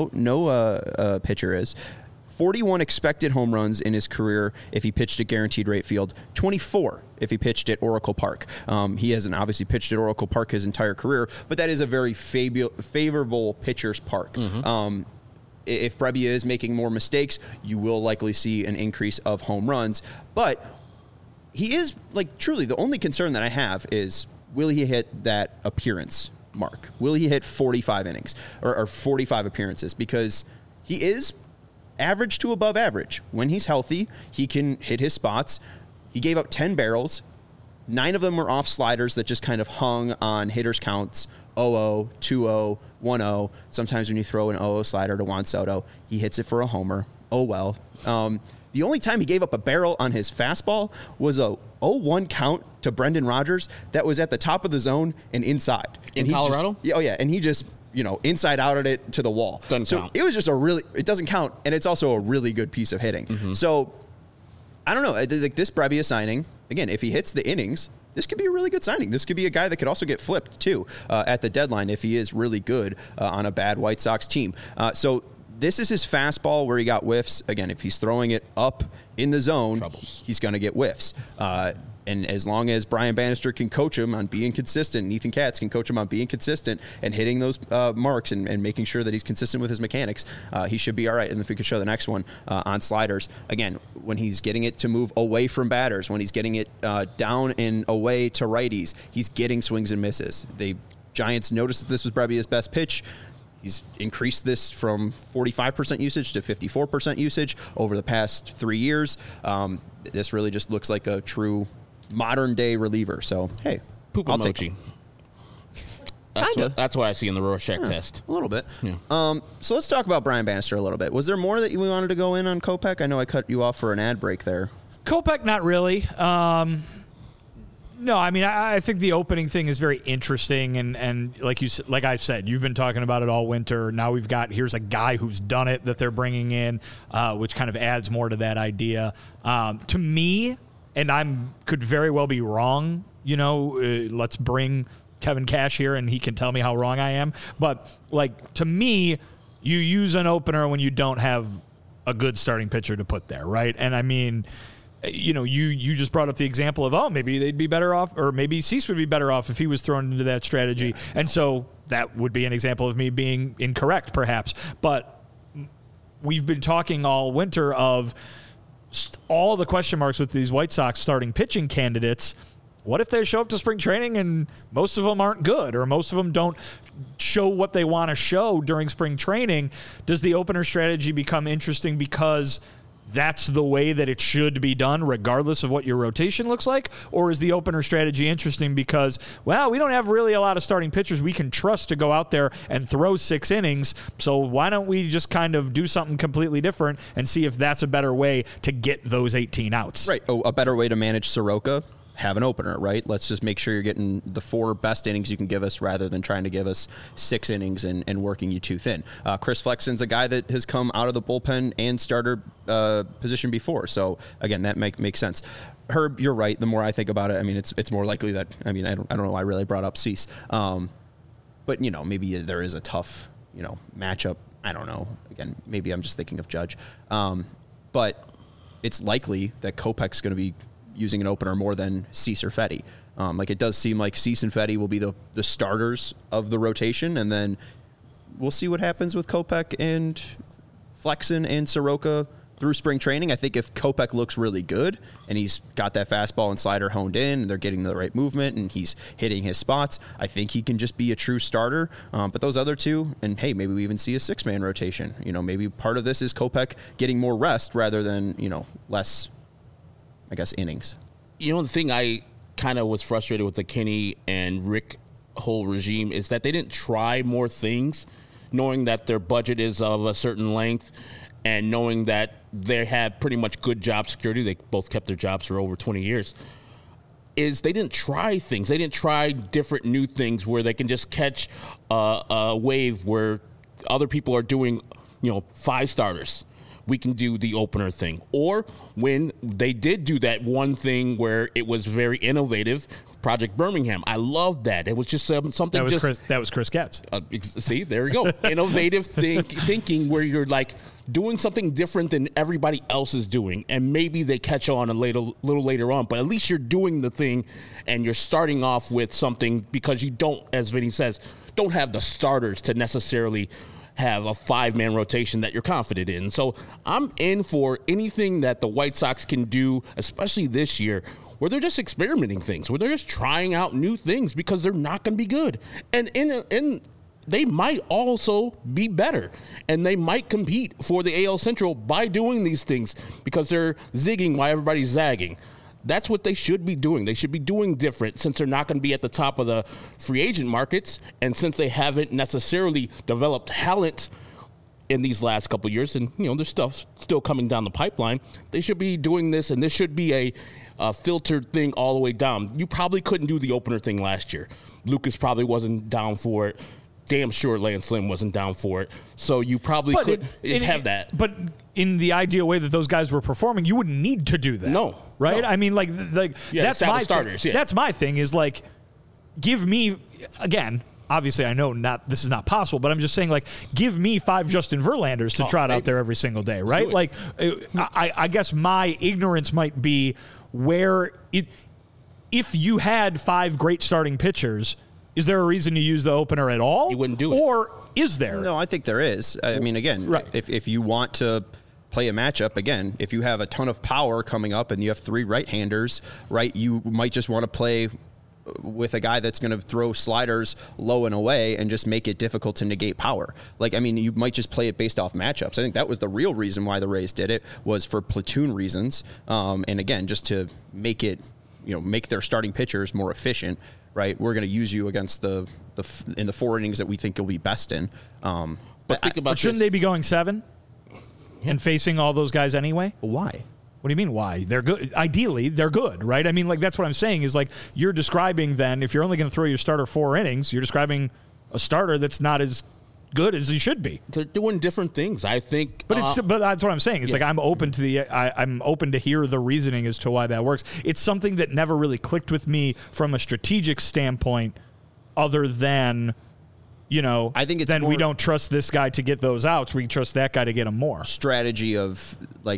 no pitcher is. 41 expected home runs in his career if he pitched at Guaranteed Rate Field. 24 if he pitched at Oracle Park. He hasn't obviously pitched at Oracle Park his entire career, but that is a very favorable pitcher's park. Mm-hmm. If Brebbia is making more mistakes, you will likely see an increase of home runs. But he is, like, truly the only concern that I have is, will he hit that appearance mark? Will he hit 45 innings or 45 appearances? Because he is average to above average. When he's healthy, he can hit his spots. He gave up 10 barrels. 9 of them were off sliders that just kind of hung on hitters' counts, 0-0, 2-0, 1-0. Sometimes when you throw an 0-0 slider to Juan Soto, he hits it for a homer. Oh, well. The only time he gave up a barrel on his fastball was a 0-1 count to Brendan Rodgers that was at the top of the zone and inside. In Colorado? And he just, inside outed it to the wall. Doesn't count. It was just it doesn't count, and it's also a really good piece of hitting. Mm-hmm. So, I don't know. Like this Brebbia signing, again, if he hits the innings, this could be a really good signing. This could be a guy that could also get flipped, too, at the deadline if he is really good on a bad White Sox team. So this is his fastball where he got whiffs. Again, if he's throwing it up in the zone, he's going to get whiffs. And as long as Brian Bannister can coach him on being consistent, and Ethan Katz can coach him on being consistent and hitting those marks and making sure that he's consistent with his mechanics, he should be all right. And if we could show the next one on sliders, again, when he's getting it to move away from batters, when he's getting it down and away to righties, he's getting swings and misses. The Giants noticed that this was Brebbia's best pitch. He's increased this from 45% usage to 54% usage over the past 3 years. This really just looks like a true modern-day reliever. So, hey, Poop I'll emoji. That's what I see in the Rorschach test. A little bit. Yeah. So let's talk about Brian Bannister a little bit. Was there more that we wanted to go in on Kopech? I know I cut you off for an ad break there. Kopech, not really. No, I mean, I think the opening thing is very interesting, and like I said, you've been talking about it all winter. Now here's a guy who's done it that they're bringing in, which kind of adds more to that idea. To me, and could very well be wrong, let's bring Kevin Cash here and he can tell me how wrong I am. But, to me, you use an opener when you don't have a good starting pitcher to put there, right? And, I mean, you just brought up the example of, maybe they'd be better off, or maybe Cease would be better off if he was thrown into that strategy. Yeah. And so that would be an example of me being incorrect, perhaps. But we've been talking all winter of all the question marks with these White Sox starting pitching candidates. What if they show up to spring training and most of them aren't good, or most of them don't show what they want to show during spring training? Does the opener strategy become interesting because that's the way that it should be done regardless of what your rotation looks like? Or is the opener strategy interesting because, we don't have really a lot of starting pitchers we can trust to go out there and throw 6 innings, so why don't we just kind of do something completely different and see if that's a better way to get those 18 outs? Right. A better way to manage Soroka? Have an opener, right? Let's just make sure you're getting the 4 best innings you can give us rather than trying to give us 6 innings and working you too thin. Chris Flexen's a guy that has come out of the bullpen and starter position before. So, again, that makes sense. Herb, you're right. The more I think about it, I mean, it's more likely that, I don't know why I really brought up Cease. But, maybe there is a tough, matchup. I don't know. Again, maybe I'm just thinking of Judge. But it's likely that Kopech's going to be using an opener more than Cease or Fedde. It does seem like Cease and Fedde will be the starters of the rotation, and then we'll see what happens with Kopech and Flexen and Soroka through spring training. I think if Kopech looks really good and he's got that fastball and slider honed in and they're getting the right movement and he's hitting his spots, I think he can just be a true starter. But those other two, and hey, maybe we even see a 6-man rotation. Maybe part of this is Kopech getting more rest rather than, less, I guess, innings. The thing I kind of was frustrated with the Kenny and Rick whole regime is that they didn't try more things, knowing that their budget is of a certain length and knowing that they had pretty much good job security. They both kept their jobs for over 20 years. Is they didn't try things. They didn't try different new things where they can just catch a wave where other people are doing, 5 starters. we can do the opener thing. Or when they did do that one thing where it was very innovative, Project Birmingham. I loved that. It was just something. That was Chris Getz. See, there you go. Innovative thinking where you're like doing something different than everybody else is doing, and maybe they catch on a little later on. But at least you're doing the thing, and you're starting off with something because you don't, as Vinny says, don't have the starters to necessarily have a 5-man rotation that you're confident in. So I'm in for anything that the White Sox can do, especially this year, where they're just experimenting things, where they're just trying out new things because they're not going to be good. And they might also be better, and they might compete for the AL Central by doing these things because they're zigging while everybody's zagging. That's what they should be doing. They should be doing different since they're not going to be at the top of the free agent markets, and since they haven't necessarily developed talent in these last couple of years, and there's stuff still coming down the pipeline. They should be doing this, and this should be a filtered thing all the way down. You probably couldn't do the opener thing last year. Lucas probably wasn't down for it. Damn sure Lance Lynn wasn't down for it. So you probably could have that. But in the ideal way that those guys were performing, you wouldn't need to do that. No. Right? No. I mean, that's my starters. Yeah. That's my thing is give me, again, obviously I know this is not possible, but I'm just saying give me 5 Justin Verlanders to trot out there every single day, right? I guess my ignorance might be where if you had 5 great starting pitchers, is there a reason to use the opener at all? You wouldn't do it. Or is there? No, I think there is. I mean, again, right. if you want to play a matchup, again, if you have a ton of power coming up and you have 3 right-handers, right, you might just want to play with a guy that's going to throw sliders low and away and just make it difficult to negate power. You might just play it based off matchups. I think that was the real reason why the Rays did it, was for platoon reasons. And again, just to make it, make their starting pitchers more efficient, right? We're going to use you against in the 4 innings that we think you'll be best in. But think about shouldn't they be going 7 and facing all those guys anyway? Why? What do you mean why? They're good. Ideally, they're good, right? I mean, that's what I'm saying is you're describing then, if you're only going to throw your starter 4 innings, you're describing a starter that's not as good as he should be. They're doing different things, I think. But but that's what I'm saying. It's I'm open to I'm open to hear the reasoning as to why that works. It's something that never really clicked with me from a strategic standpoint, other than I think it's we don't trust this guy to get those outs. We trust that guy to get them more. Strategy of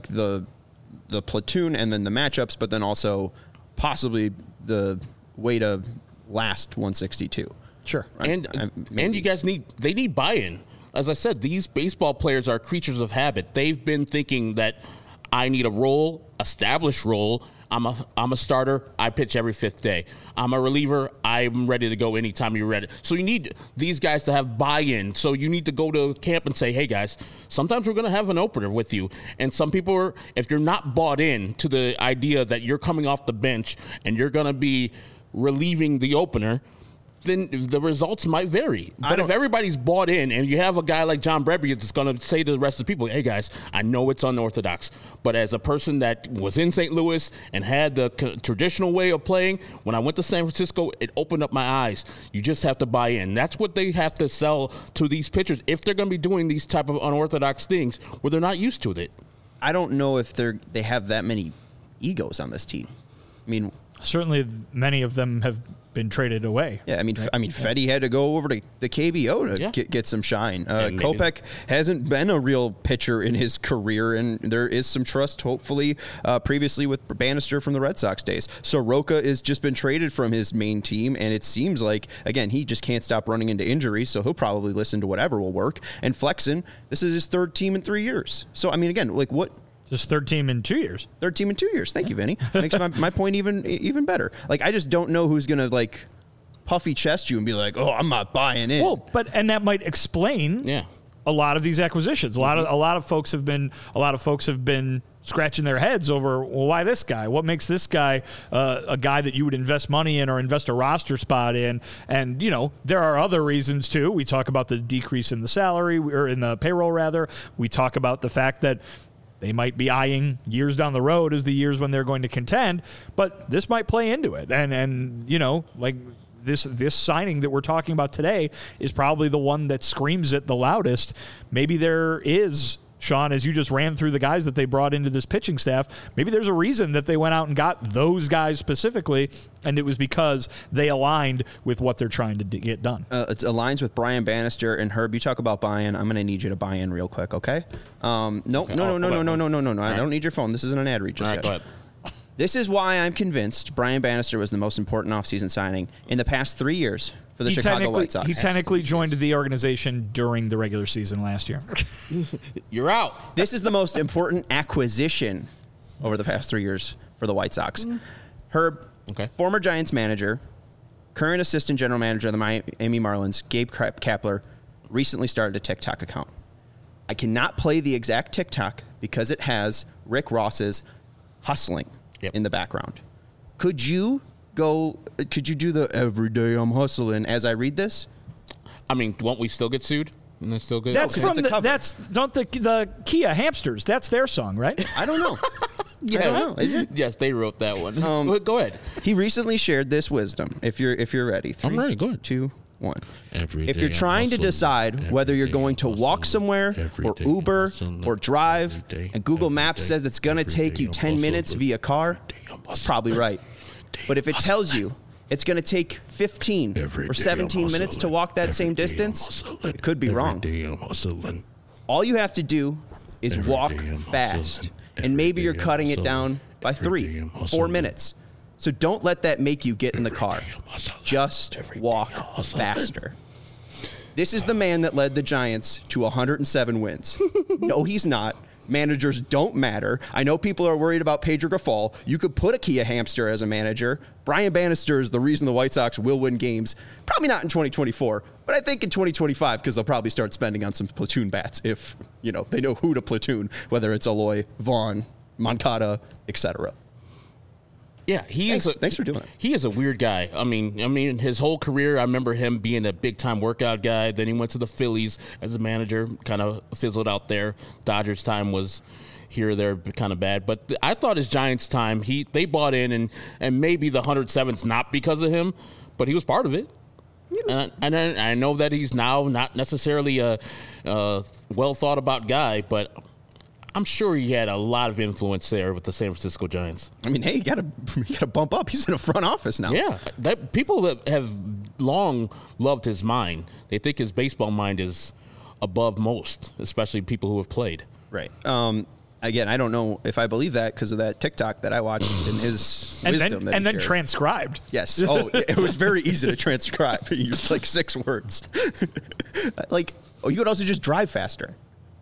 the platoon and then the matchups, but then also possibly the way to last 162. Sure. Right? And you guys need buy-in. As I said, these baseball players are creatures of habit. They've been thinking that I need a role, established role. I'm a starter. I pitch every 5th day. I'm a reliever. I'm ready to go anytime you're ready. So you need these guys to have buy-in. So you need to go to camp and say, hey, guys, sometimes we're going to have an opener with you. And some people if you're not bought in to the idea that you're coming off the bench and you're going to be relieving the opener, then the results might vary. But if everybody's bought in and you have a guy like John Brebby that's going to say to the rest of the people, hey, guys, I know it's unorthodox, but as a person that was in St. Louis and had the traditional way of playing, when I went to San Francisco, it opened up my eyes. You just have to buy in. That's what they have to sell to these pitchers if they're going to be doing these type of unorthodox things where they're not used to it. I don't know if they have that many egos on this team. I mean, certainly many of them have been traded away. Yeah, I mean, Fedde had to go over to the KBO to get some shine. Kopech hasn't been a real pitcher in his career, and there is some trust, hopefully, previously with Bannister from the Red Sox days. Soroka has just been traded from his main team, and it seems like, again, he just can't stop running into injuries, so he'll probably listen to whatever will work. And Flexen, this is his 3rd team in 3 years. So, I mean, again, what... Just 3rd team in 2 years. 3rd team in 2 years. Thank you, Vinny. Makes my point even better. I just don't know who's going to, puffy chest you and be like, oh, I'm not buying in. Well, and that might explain a lot of these acquisitions. A lot of folks have been scratching their heads over, well, why this guy? What makes this guy a guy that you would invest money in or invest a roster spot in? And, there are other reasons, too. We talk about the decrease in the salary, or in the payroll, rather. We talk about the fact that they might be eyeing years down the road as the years when they're going to contend, but this might play into it. And this signing that we're talking about today is probably the one that screams it the loudest. Maybe there is Sean, as you just ran through the guys that they brought into this pitching staff, maybe there's a reason that they went out and got those guys specifically, and it was because they aligned with what they're trying to get done. It aligns with Brian Bannister and Herb. You talk about buy-in. I'm going to need you to buy in real quick, okay? No. I don't need your phone. This isn't an ad read just yet. Go ahead. This is why I'm convinced Brian Bannister was the most important offseason signing in the past 3 years for the Chicago White Sox. He technically joined the organization during the regular season last year. You're out. This is the most important acquisition over the past 3 years for the White Sox. Herb, former Giants manager, current assistant general manager of the Miami Marlins, Gabe Kapler, recently started a TikTok account. I cannot play the exact TikTok because it has Rick Ross's hustling in the background. Could you do the every day I'm hustling as I read this? I mean, won't we still get sued? And it's still good? That's from the Kia Hamsters. That's their song, right? I don't know. Yes. I don't know. Is it? Yes, they wrote that one. Go ahead. He recently shared this wisdom. If you're ready. 3, I'm ready. Go ahead. 2, 1. If you're trying to decide whether you're going to walk somewhere or Uber or drive, and Google Maps says it's going to take you 10 minutes via car, it's probably right. But if it tells you it's going to take 15 or 17 minutes to walk that same distance, it could be wrong. All you have to do is walk fast, and maybe you're cutting it down by 3, 4 minutes. So don't let that make you get in the car. Just walk faster. This is the man that led the Giants to 107 wins. No, he's not. Managers don't matter. I know people are worried about Pedro Grifol. You could put a Kia Hamster as a manager. Brian Bannister is the reason the White Sox will win games. Probably not in 2024, but I think in 2025 because they'll probably start spending on some platoon bats if, they know who to platoon, whether it's Eloy, Vaughn, Moncada, etc. Yeah, thanks for doing it. He is a weird guy. I mean, his whole career, I remember him being a big-time workout guy. Then he went to the Phillies as a manager, kind of fizzled out there. Dodgers' time was here or there, kind of bad. But I thought his Giants' time, they bought in, and maybe the 107's not because of him, but he was part of it. And I know that he's now not necessarily a well-thought-about guy, but I'm sure he had a lot of influence there with the San Francisco Giants. I mean, hey, you got to bump up. He's in a front office now. Yeah, people that have long loved his mind. They think his baseball mind is above most, especially people who have played. Right. Again, I don't know if I believe that because of that TikTok that I watched in his wisdom. And then transcribed. Yes. Oh, it was very easy to transcribe. He used 6 words. You could also just drive faster.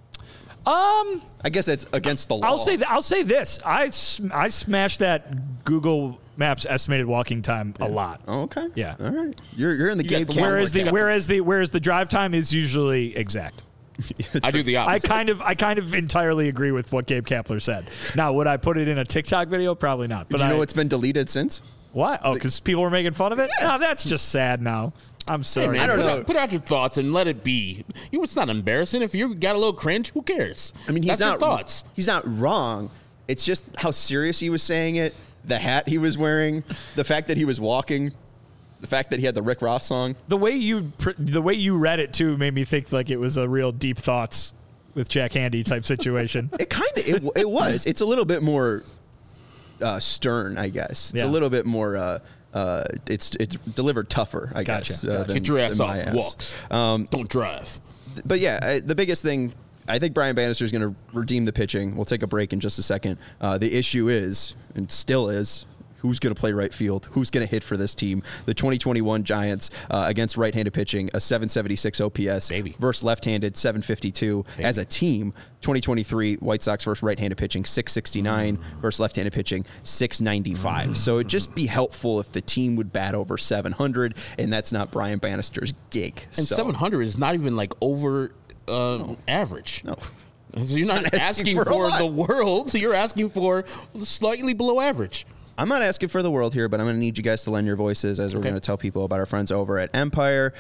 I guess that's against the law. I'll say this. I smashed that Google Maps estimated walking time a lot. Oh, okay. Yeah. All right. You're in the game. Whereas the drive time is usually exact. I do the opposite. I kind of entirely agree with what Gabe Kapler said. Now, would I put it in a TikTok video? Probably not. But you know it's been deleted since? What? Oh, because people were making fun of it? Yeah. No, that's just sad now. I'm sorry. Hey man, I don't know. Put out your thoughts and let it be. It's not embarrassing. If you got a little cringe, who cares? I mean, That's your thoughts. He's not wrong. It's just how serious he was saying it, the hat he was wearing, the fact that he was walking, the fact that he had the Rick Ross song. The way you read it too made me think like it was a real deep thoughts with Jack Handy type situation. It was. It's a little bit more stern, I guess. It's a little bit more. It's delivered tougher, I guess. Get your ass out. Walks. Don't drive. But yeah, the biggest thing, I think Brian Bannister is going to redeem the pitching. We'll take a break in just a second. The issue is, and still is, who's going to play right field? Who's going to hit for this team? The 2021 Giants against right-handed pitching, a 776 OPS versus left-handed 752 as a team. 2023 White Sox versus right-handed pitching 669 versus left-handed pitching 695. So it'd just be helpful if the team would bat over 700, and that's not Brian Bannister's gig. And 700 is not even over average. No. So you're not asking for the world. You're asking for slightly below average. I'm not asking for the world here, but I'm going to need you guys to lend your voices as we're going to tell people about our friends over at Empire.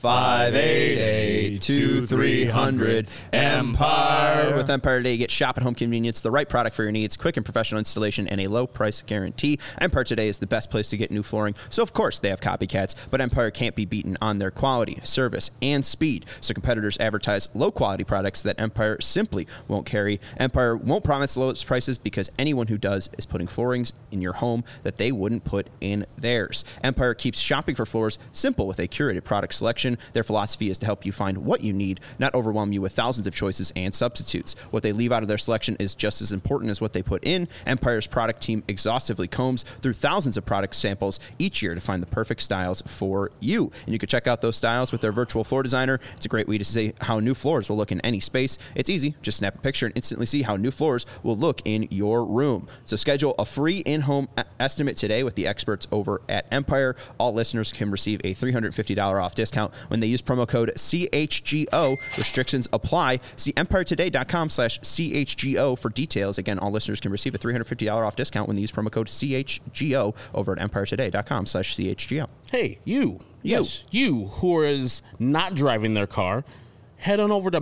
588-2300 Empire. With Empire Today, you get shop at home convenience, the right product for your needs, quick and professional installation, and a low price guarantee. Empire Today is the best place to get new flooring. So, of course, they have copycats, but Empire can't be beaten on their quality, service, and speed. So competitors advertise low-quality products that Empire simply won't carry. Empire won't promise lowest prices because anyone who does is putting floorings in your home that they wouldn't put in theirs. Empire keeps shopping for floors simple with a curated product selection. Their philosophy is to help you find what you need, not overwhelm you with thousands of choices and substitutes. What they leave out of their selection is just as important as what they put in. Empire's product team exhaustively combs through thousands of product samples each year to find the perfect styles for you. And you can check out those styles with their virtual floor designer. It's a great way to see how new floors will look in any space. It's easy. Just snap a picture and instantly see how new floors will look in your room. So schedule a free in-home estimate today with the experts over at Empire. All listeners can receive a $350 off discount when they use promo code CHGO. Restrictions apply. See EmpireToday.com/CHGO for details. Again, all listeners can receive a $350 off discount when they use promo code CHGO over at EmpireToday.com/CHGO. Hey, you. Yes, you who is not driving their car, head on over to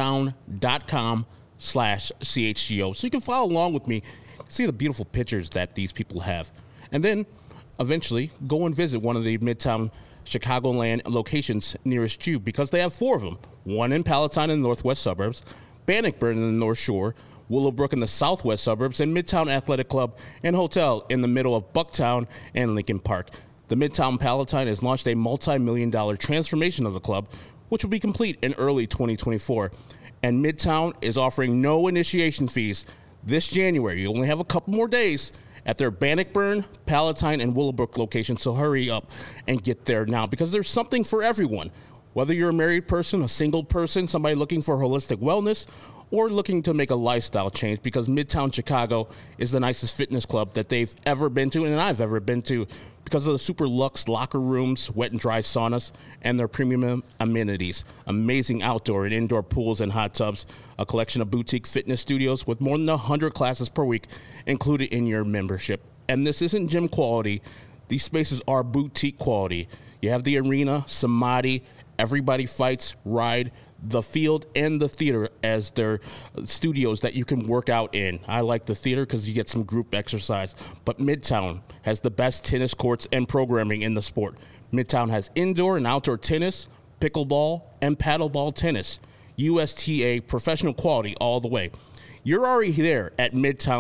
Midtown.com/CHGO so you can follow along with me, see the beautiful pictures that these people have. And then eventually go and visit one of the Midtown Chicagoland locations nearest you because they have 4 of them. One in Palatine in the northwest suburbs, Bannockburn in the North Shore, Willowbrook in the southwest suburbs, and Midtown Athletic Club and Hotel in the middle of Bucktown and Lincoln Park. The Midtown Palatine has launched a multi-million-dollar transformation of the club, which will be complete in early 2024. And Midtown is offering no initiation fees this January. You only have a couple more days at their Bannockburn, Palatine, and Willowbrook locations, so hurry up and get there now because there's something for everyone. Whether you're a married person, a single person, somebody looking for holistic wellness, or looking to make a lifestyle change, because Midtown Chicago is the nicest fitness club that they've ever been to and I've ever been to because of the super luxe locker rooms, wet and dry saunas, and their premium amenities. Amazing outdoor and indoor pools and hot tubs, a collection of boutique fitness studios with more than 100 classes per week included in your membership. And this isn't gym quality. These spaces are boutique quality. You have the arena, Samadhi, Everybody Fights, Ride, the field, and the theater as their studios that you can work out in. I like the theater because you get some group exercise, but Midtown has the best tennis courts and programming in the sport. Midtown has indoor and outdoor tennis, pickleball, and paddleball tennis. USTA professional quality all the way. You're already there at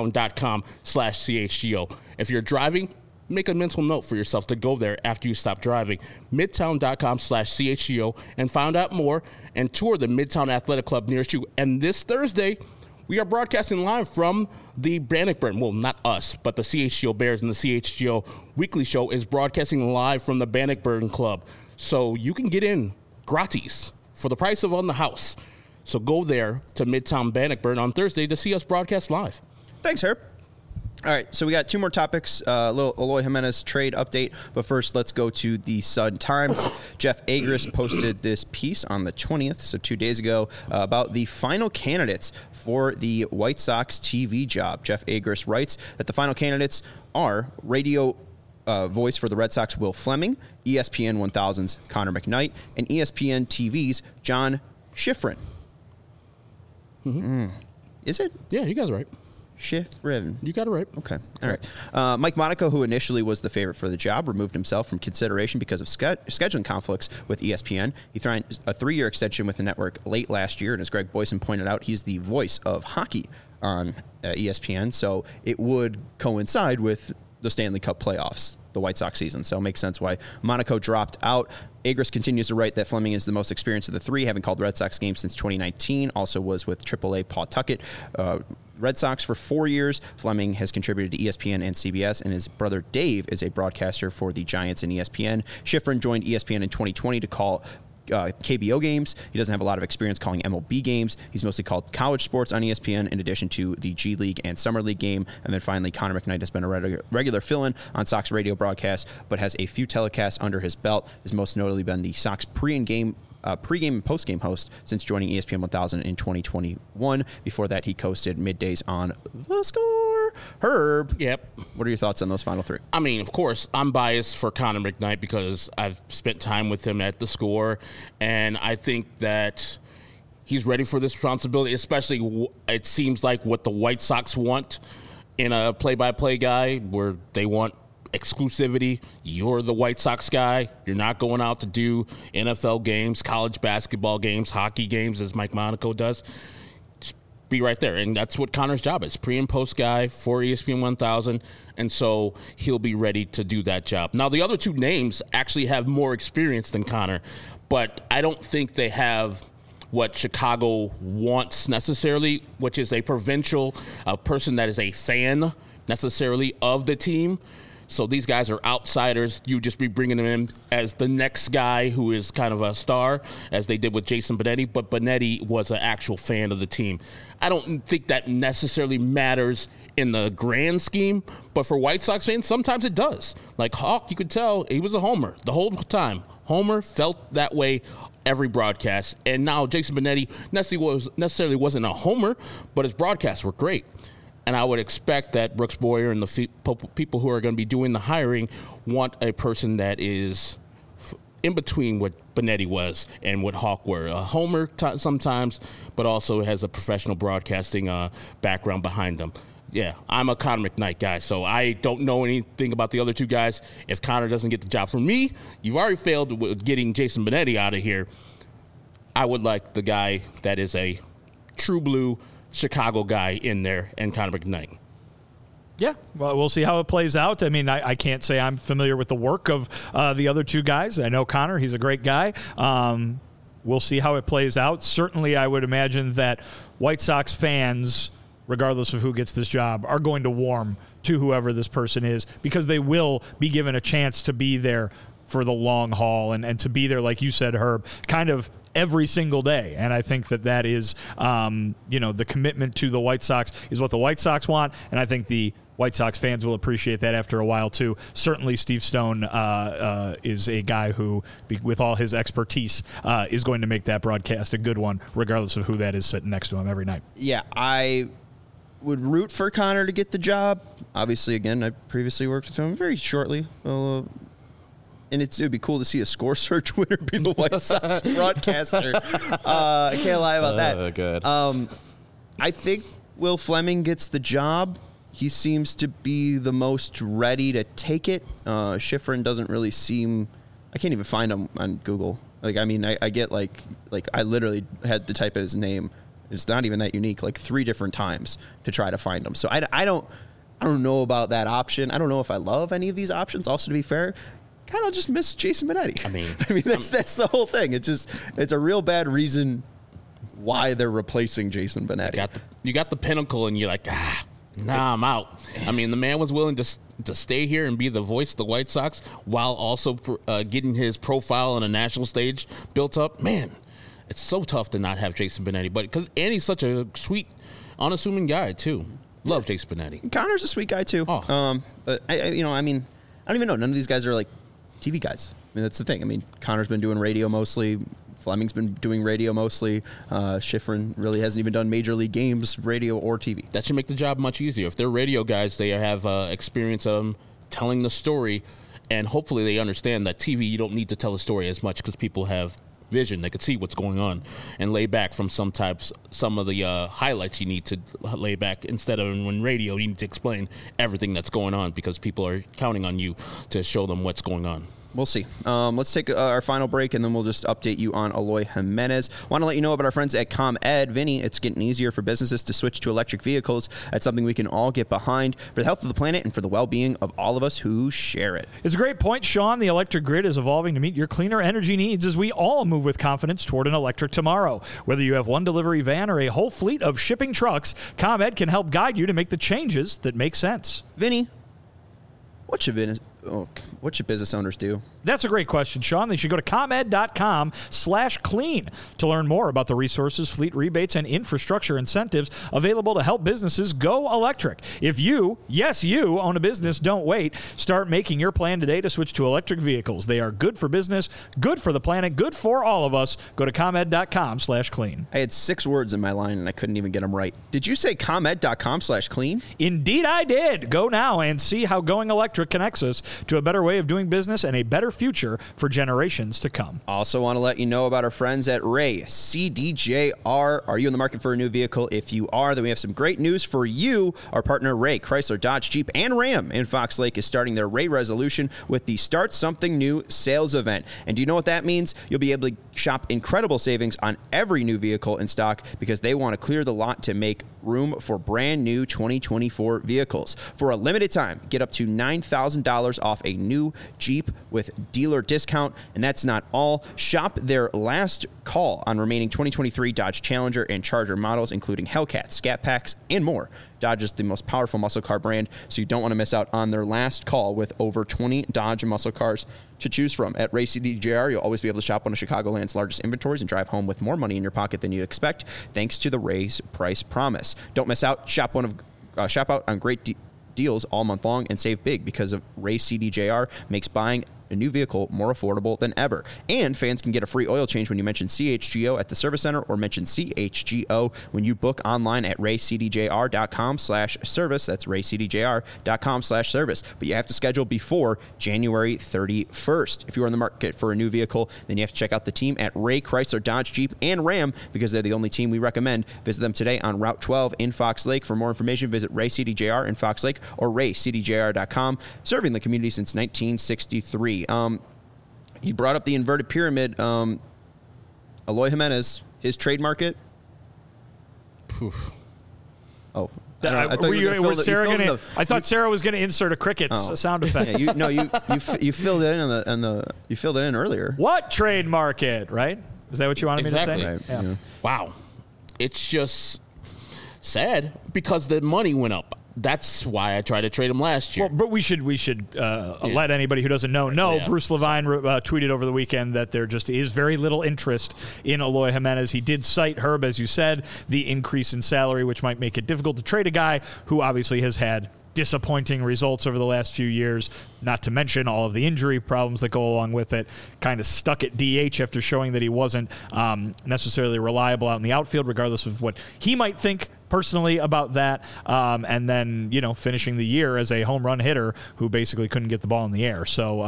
midtown.com/CHGO. If you're driving, make a mental note for yourself to go there after you stop driving. Midtown.com/CHGO and find out more and tour the Midtown Athletic Club nearest you. And this Thursday, we are broadcasting live from the Bannockburn. Well, not us, but the CHGO Bears and the CHGO Weekly Show is broadcasting live from the Bannockburn Club. So you can get in gratis for the price of on the house. So go there to Midtown Bannockburn on Thursday to see us broadcast live. Thanks, Herb. All right, so we got 2 more topics, a little Eloy Jimenez trade update, but first let's go to the Sun-Times. Jeff Agris posted this piece on the 20th, so 2 days ago, about the final candidates for the White Sox TV job. Jeff Agris writes that the final candidates are radio voice for the Red Sox, Will Fleming, ESPN 1000's Connor McKnight, and ESPN TV's John Schifrin. Mm-hmm. Is it? Yeah, you guys are right. Schifrin. You got it right. Okay. All right. Mike Monaco, who initially was the favorite for the job, removed himself from consideration because of scheduling conflicts with ESPN. He signed a 3-year extension with the network late last year, and as Greg Boyson pointed out, he's the voice of hockey on ESPN, so it would coincide with the Stanley Cup playoffs, the White Sox season, so it makes sense why Monaco dropped out. Agris continues to write that Fleming is the most experienced of the 3, having called Red Sox games since 2019, also was with AAA Pawtucket Red Sox for 4 years. Fleming has contributed to ESPN and CBS, and his brother Dave is a broadcaster for the Giants and ESPN. Schifrin joined ESPN in 2020 to call KBO games. He doesn't have a lot of experience calling MLB games. He's mostly called college sports on ESPN in addition to the G League and Summer League game. And then finally, Connor McKnight has been a regular fill-in on Sox radio broadcasts, but has a few telecasts under his belt. Has most notably been the Sox pregame and postgame host since joining ESPN 1000 in 2021. Before that, he co-hosted middays on The Score. 4. Herb. Yep. What are your thoughts on those final 3? I mean, of course, I'm biased for Connor McKnight because I've spent time with him at the Score, and I think that he's ready for this responsibility, especially it seems like what the White Sox want in a play-by-play guy, where they want exclusivity. You're the White Sox guy. You're not going out to do NFL games, college basketball games, hockey games, as Mike Monaco does. Just be right there. And that's what Connor's job is, pre and post guy for ESPN 1000. And so he'll be ready to do that job. Now, the other 2 names actually have more experience than Connor, but I don't think they have what Chicago wants necessarily, which is a provincial, a person that is a fan necessarily of the team. So these guys are outsiders. You just be bringing them in as the next guy who is kind of a star, as they did with Jason Benetti. But Benetti was an actual fan of the team. I don't think that necessarily matters in the grand scheme, but for White Sox fans, sometimes it does. Like Hawk, you could tell he was a homer the whole time. Homer felt that way every broadcast. And now Jason Benetti necessarily wasn't a homer, but his broadcasts were great. And I would expect that Brooks Boyer and the people who are going to be doing the hiring want a person that is in between what Benetti was and what Hawk were. A homer sometimes, but also has a professional broadcasting background behind them. Yeah, I'm a Connor McKnight guy, so I don't know anything about the other 2 guys. If Connor doesn't get the job for me, you've already failed with getting Jason Benetti out of here. I would like the guy that is a true blue Chicago guy in there, and Connor McKnight. Yeah, well, we'll see how it plays out. I mean, I can't say I'm familiar with the work of the other 2 guys. I know Connor. He's a great guy. We'll see how it plays out. Certainly, I would imagine that White Sox fans, regardless of who gets this job, are going to warm to whoever this person is because they will be given a chance to be there for the long haul and to be there, like you said, Herb, kind of every single day. And I think that is, the commitment to the White Sox is what the White Sox want. And I think the White Sox fans will appreciate that after a while, too. Certainly Steve Stone is a guy who, with all his expertise, is going to make that broadcast a good one, regardless of who that is sitting next to him every night. Yeah, I would root for Connor to get the job. Obviously, again, I previously worked with him very shortly. And it would be cool to see a Score Search winner be the White Sox broadcaster. I can't lie about that. Good. I think Will Fleming gets the job. He seems to be the most ready to take it. Schifrin doesn't really seem... I can't even find him on Google. Like, I mean, I get like I literally had to type his name. It's not even that unique. Like 3 different times to try to find him. So I don't know about that option. I don't know if I love any of these options. Also, to be fair, kind of just miss Jason Benetti. I mean that's the whole thing. It's a real bad reason why they're replacing Jason Benetti. You got the pinnacle, and you're like, nah, I'm out. I mean, the man was willing to stay here and be the voice of the White Sox while also getting his profile on a national stage built up. Man, it's so tough to not have Jason Benetti, and he's such a sweet, unassuming guy too. Love Jason Benetti. Connor's a sweet guy too. Oh. But I don't even know. None of these guys are like TV guys. I mean, that's the thing. I mean, Connor's been doing radio mostly. Fleming's been doing radio mostly. Schifrin really hasn't even done major league games, radio or TV. That should make the job much easier. If they're radio guys, they have experience of telling the story, and hopefully they understand that TV, you don't need to tell the story as much because people have vision. They could see what's going on and lay back from some of the highlights you need to lay back, instead of when radio you need to explain everything that's going on because people are counting on you to show them what's going on. We'll see. Let's take our final break, and then we'll just update you on Eloy Jimenez. Want to let you know about our friends at ComEd. Vinny, it's getting easier for businesses to switch to electric vehicles. That's something we can all get behind for the health of the planet and for the well-being of all of us who share it. It's a great point, Sean. The electric grid is evolving to meet your cleaner energy needs as we all move with confidence toward an electric tomorrow. Whether you have one delivery van or a whole fleet of shipping trucks, ComEd can help guide you to make the changes that make sense. Vinny, what should business owners do? That's a great question, Sean. They should go to ComEd.com/clean to learn more about the resources, fleet rebates, and infrastructure incentives available to help businesses go electric. If you, yes, you, own a business, don't wait. Start making your plan today to switch to electric vehicles. They are good for business, good for the planet, good for all of us. Go to ComEd.com/clean. I had 6 words in my line, and I couldn't even get them right. Did you say ComEd.com/clean? Indeed, I did. Go now and see how going electric connects us to a better way of doing business and a better future for generations to come. Also want to let you know about our friends at Ray CDJR. Are you in the market for a new vehicle? If you are, then we have some great news for you. Our partner Ray, Chrysler, Dodge, Jeep, and Ram in Fox Lake is starting their Ray Resolution with the Start Something New sales event. And do you know what that means? You'll be able to shop incredible savings on every new vehicle in stock because they want to clear the lot to make room for brand new 2024 vehicles. For a limited time, get up to $9,000 off a new Jeep with dealer discount. And that's not all. Shop their last call on remaining 2023 Dodge Challenger and Charger models, including Hellcat, Scat Packs, and more. Dodge is the most powerful muscle car brand, so you don't want to miss out on their last call with over 20 Dodge muscle cars to choose from. At Ray CDJR, you'll always be able to shop one of Chicagoland's largest inventories and drive home with more money in your pocket than you'd expect, thanks to the Ray's Price Promise. Don't miss out. Shop out on great deals all month long and save big because of Ray CDJR makes buying a new vehicle more affordable than ever. And fans can get a free oil change when you mention CHGO at the service center or mention CHGO when you book online at raycdjr.com/service. That's raycdjr.com/service. But you have to schedule before January 31st. If you're in the market for a new vehicle, then you have to check out the team at Ray, Chrysler, Dodge, Jeep, and Ram because they're the only team we recommend. Visit them today on Route 12 in Fox Lake. For more information, visit Ray CDJR in Fox Lake or raycdjr.com, serving the community since 1963. You brought up the inverted pyramid. Eloy Jimenez, his trade market. Poof. Oh, I thought Sarah was going to insert a crickets sound effect. Yeah, you filled it in you filled it in earlier. What trade market? Right? Is that what you wanted me to say? Right. Yeah. Wow, it's just sad because the money went up. That's why I tried to trade him last year. Well, but we should let anybody who doesn't know. Yeah. Bruce Levine tweeted over the weekend that there just is very little interest in Eloy Jimenez. He did cite, Herb, as you said, the increase in salary, which might make it difficult to trade a guy who obviously has had disappointing results over the last few years, not to mention all of the injury problems that go along with it. Kind of stuck at DH after showing that he wasn't necessarily reliable out in the outfield, regardless of what he might think personally about that, and then finishing the year as a home run hitter who basically couldn't get the ball in the air. So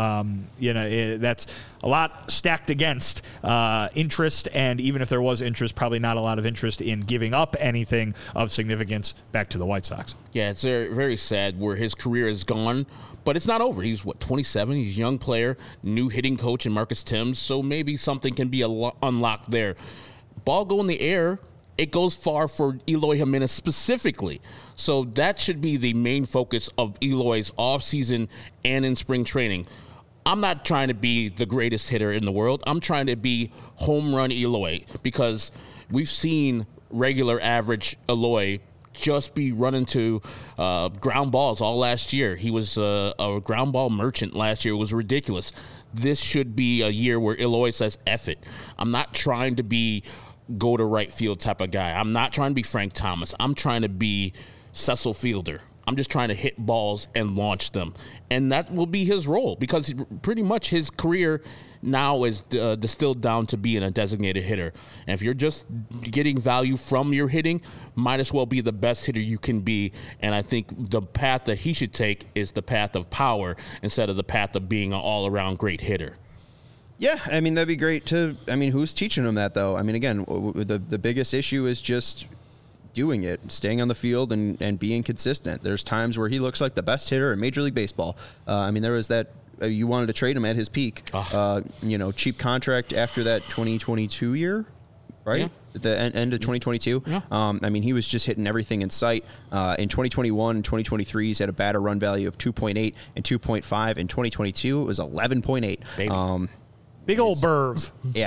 that's a lot stacked against interest, and even if there was interest, probably not a lot of interest in giving up anything of significance back to the White Sox. Yeah, it's very, very sad where his career is gone, but it's not over. He's 27. He's a young player, new hitting coach in Marcus Thames, so maybe something can be unlocked there. Ball go in the air. It goes far for Eloy Jimenez specifically. So that should be the main focus of Eloy's offseason and in spring training. I'm not trying to be the greatest hitter in the world. I'm trying to be home run Eloy because we've seen regular average Eloy just be running to ground balls all last year. He was a ground ball merchant last year. It was ridiculous. This should be a year where Eloy says, F it. I'm not trying to be go to right field type of guy. I'm not trying to be Frank Thomas. I'm trying to be Cecil Fielder. I'm just trying to hit balls and launch them. And that will be his role because pretty much his career now is distilled down to being a designated hitter. And if you're just getting value from your hitting, might as well be the best hitter you can be. And I think the path that he should take is the path of power instead of the path of being an all-around great hitter. Yeah, I mean, that'd be great who's teaching him that, though? I mean, again, the biggest issue is just doing it, staying on the field and being consistent. There's times where he looks like the best hitter in Major League Baseball. There was that you wanted to trade him at his peak. Cheap contract after that 2022 year, right? Yeah. At the end of 2022. Yeah. He was just hitting everything in sight. In 2021 and 2023, he's had a batter run value of 2.8 and 2.5. In 2022, it was 11.8. Baby. Big old Burv. Yeah,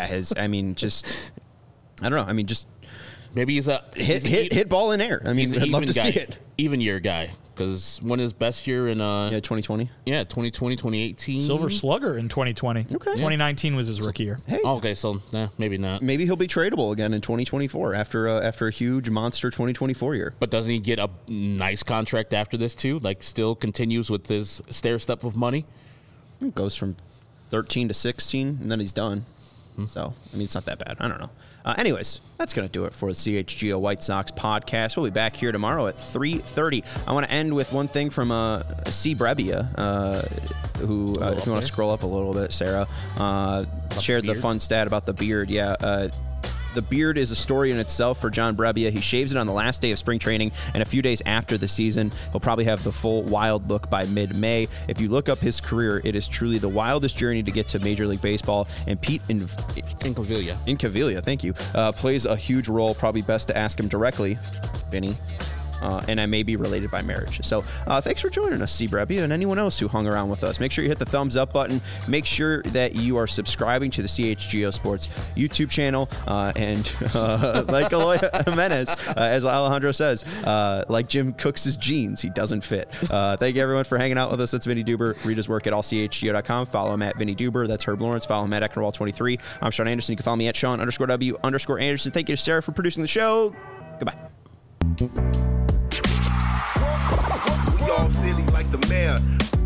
I don't know. Maybe he's a hit ball in air. I'd love to see it. Even year guy. Because when his best year in 2020. Yeah, 2020, 2018. Silver Slugger in 2020. Okay. 2019 was his rookie year. Hey. Okay, so maybe not. Maybe he'll be tradable again in 2024 after a huge monster 2024 year. But doesn't he get a nice contract after this too? Like, still continues with his stair step of money? It goes from 13 to 16, and then he's done. So, I mean, it's not that bad. I don't know. Anyways, that's going to do it for the CHGO White Sox podcast. We'll be back here tomorrow at 3:30. I want to end with one thing from C. Brebbia, who, if you want to scroll up a little bit, Sarah, shared the fun stat about the beard. Yeah, the beard is a story in itself for John Brebbia. He shaves it on the last day of spring training, and a few days after the season, he'll probably have the full wild look by mid-May. If you look up his career, it is truly the wildest journey to get to Major League Baseball, and Pete Incaviglia, thank you, plays a huge role. Probably best to ask him directly, Vinny. And I may be related by marriage. So thanks for joining us, C. Brebbia, and anyone else who hung around with us. Make sure you hit the thumbs up button. Make sure that you are subscribing to the CHGO Sports YouTube channel. And like Eloy Jimenez, as Alejandro says, like Jim Cooks' jeans, he doesn't fit. Thank you, everyone, for hanging out with us. That's Vinny Duber. Read his work at allchgo.com. Follow him at Vinny Duber. That's Herb Lawrence. Follow him at Eckerwall23. I'm Sean Anderson. You can follow me at Sean_W_Anderson. Thank you to Sarah for producing the show. Goodbye. We all silly like the mayor.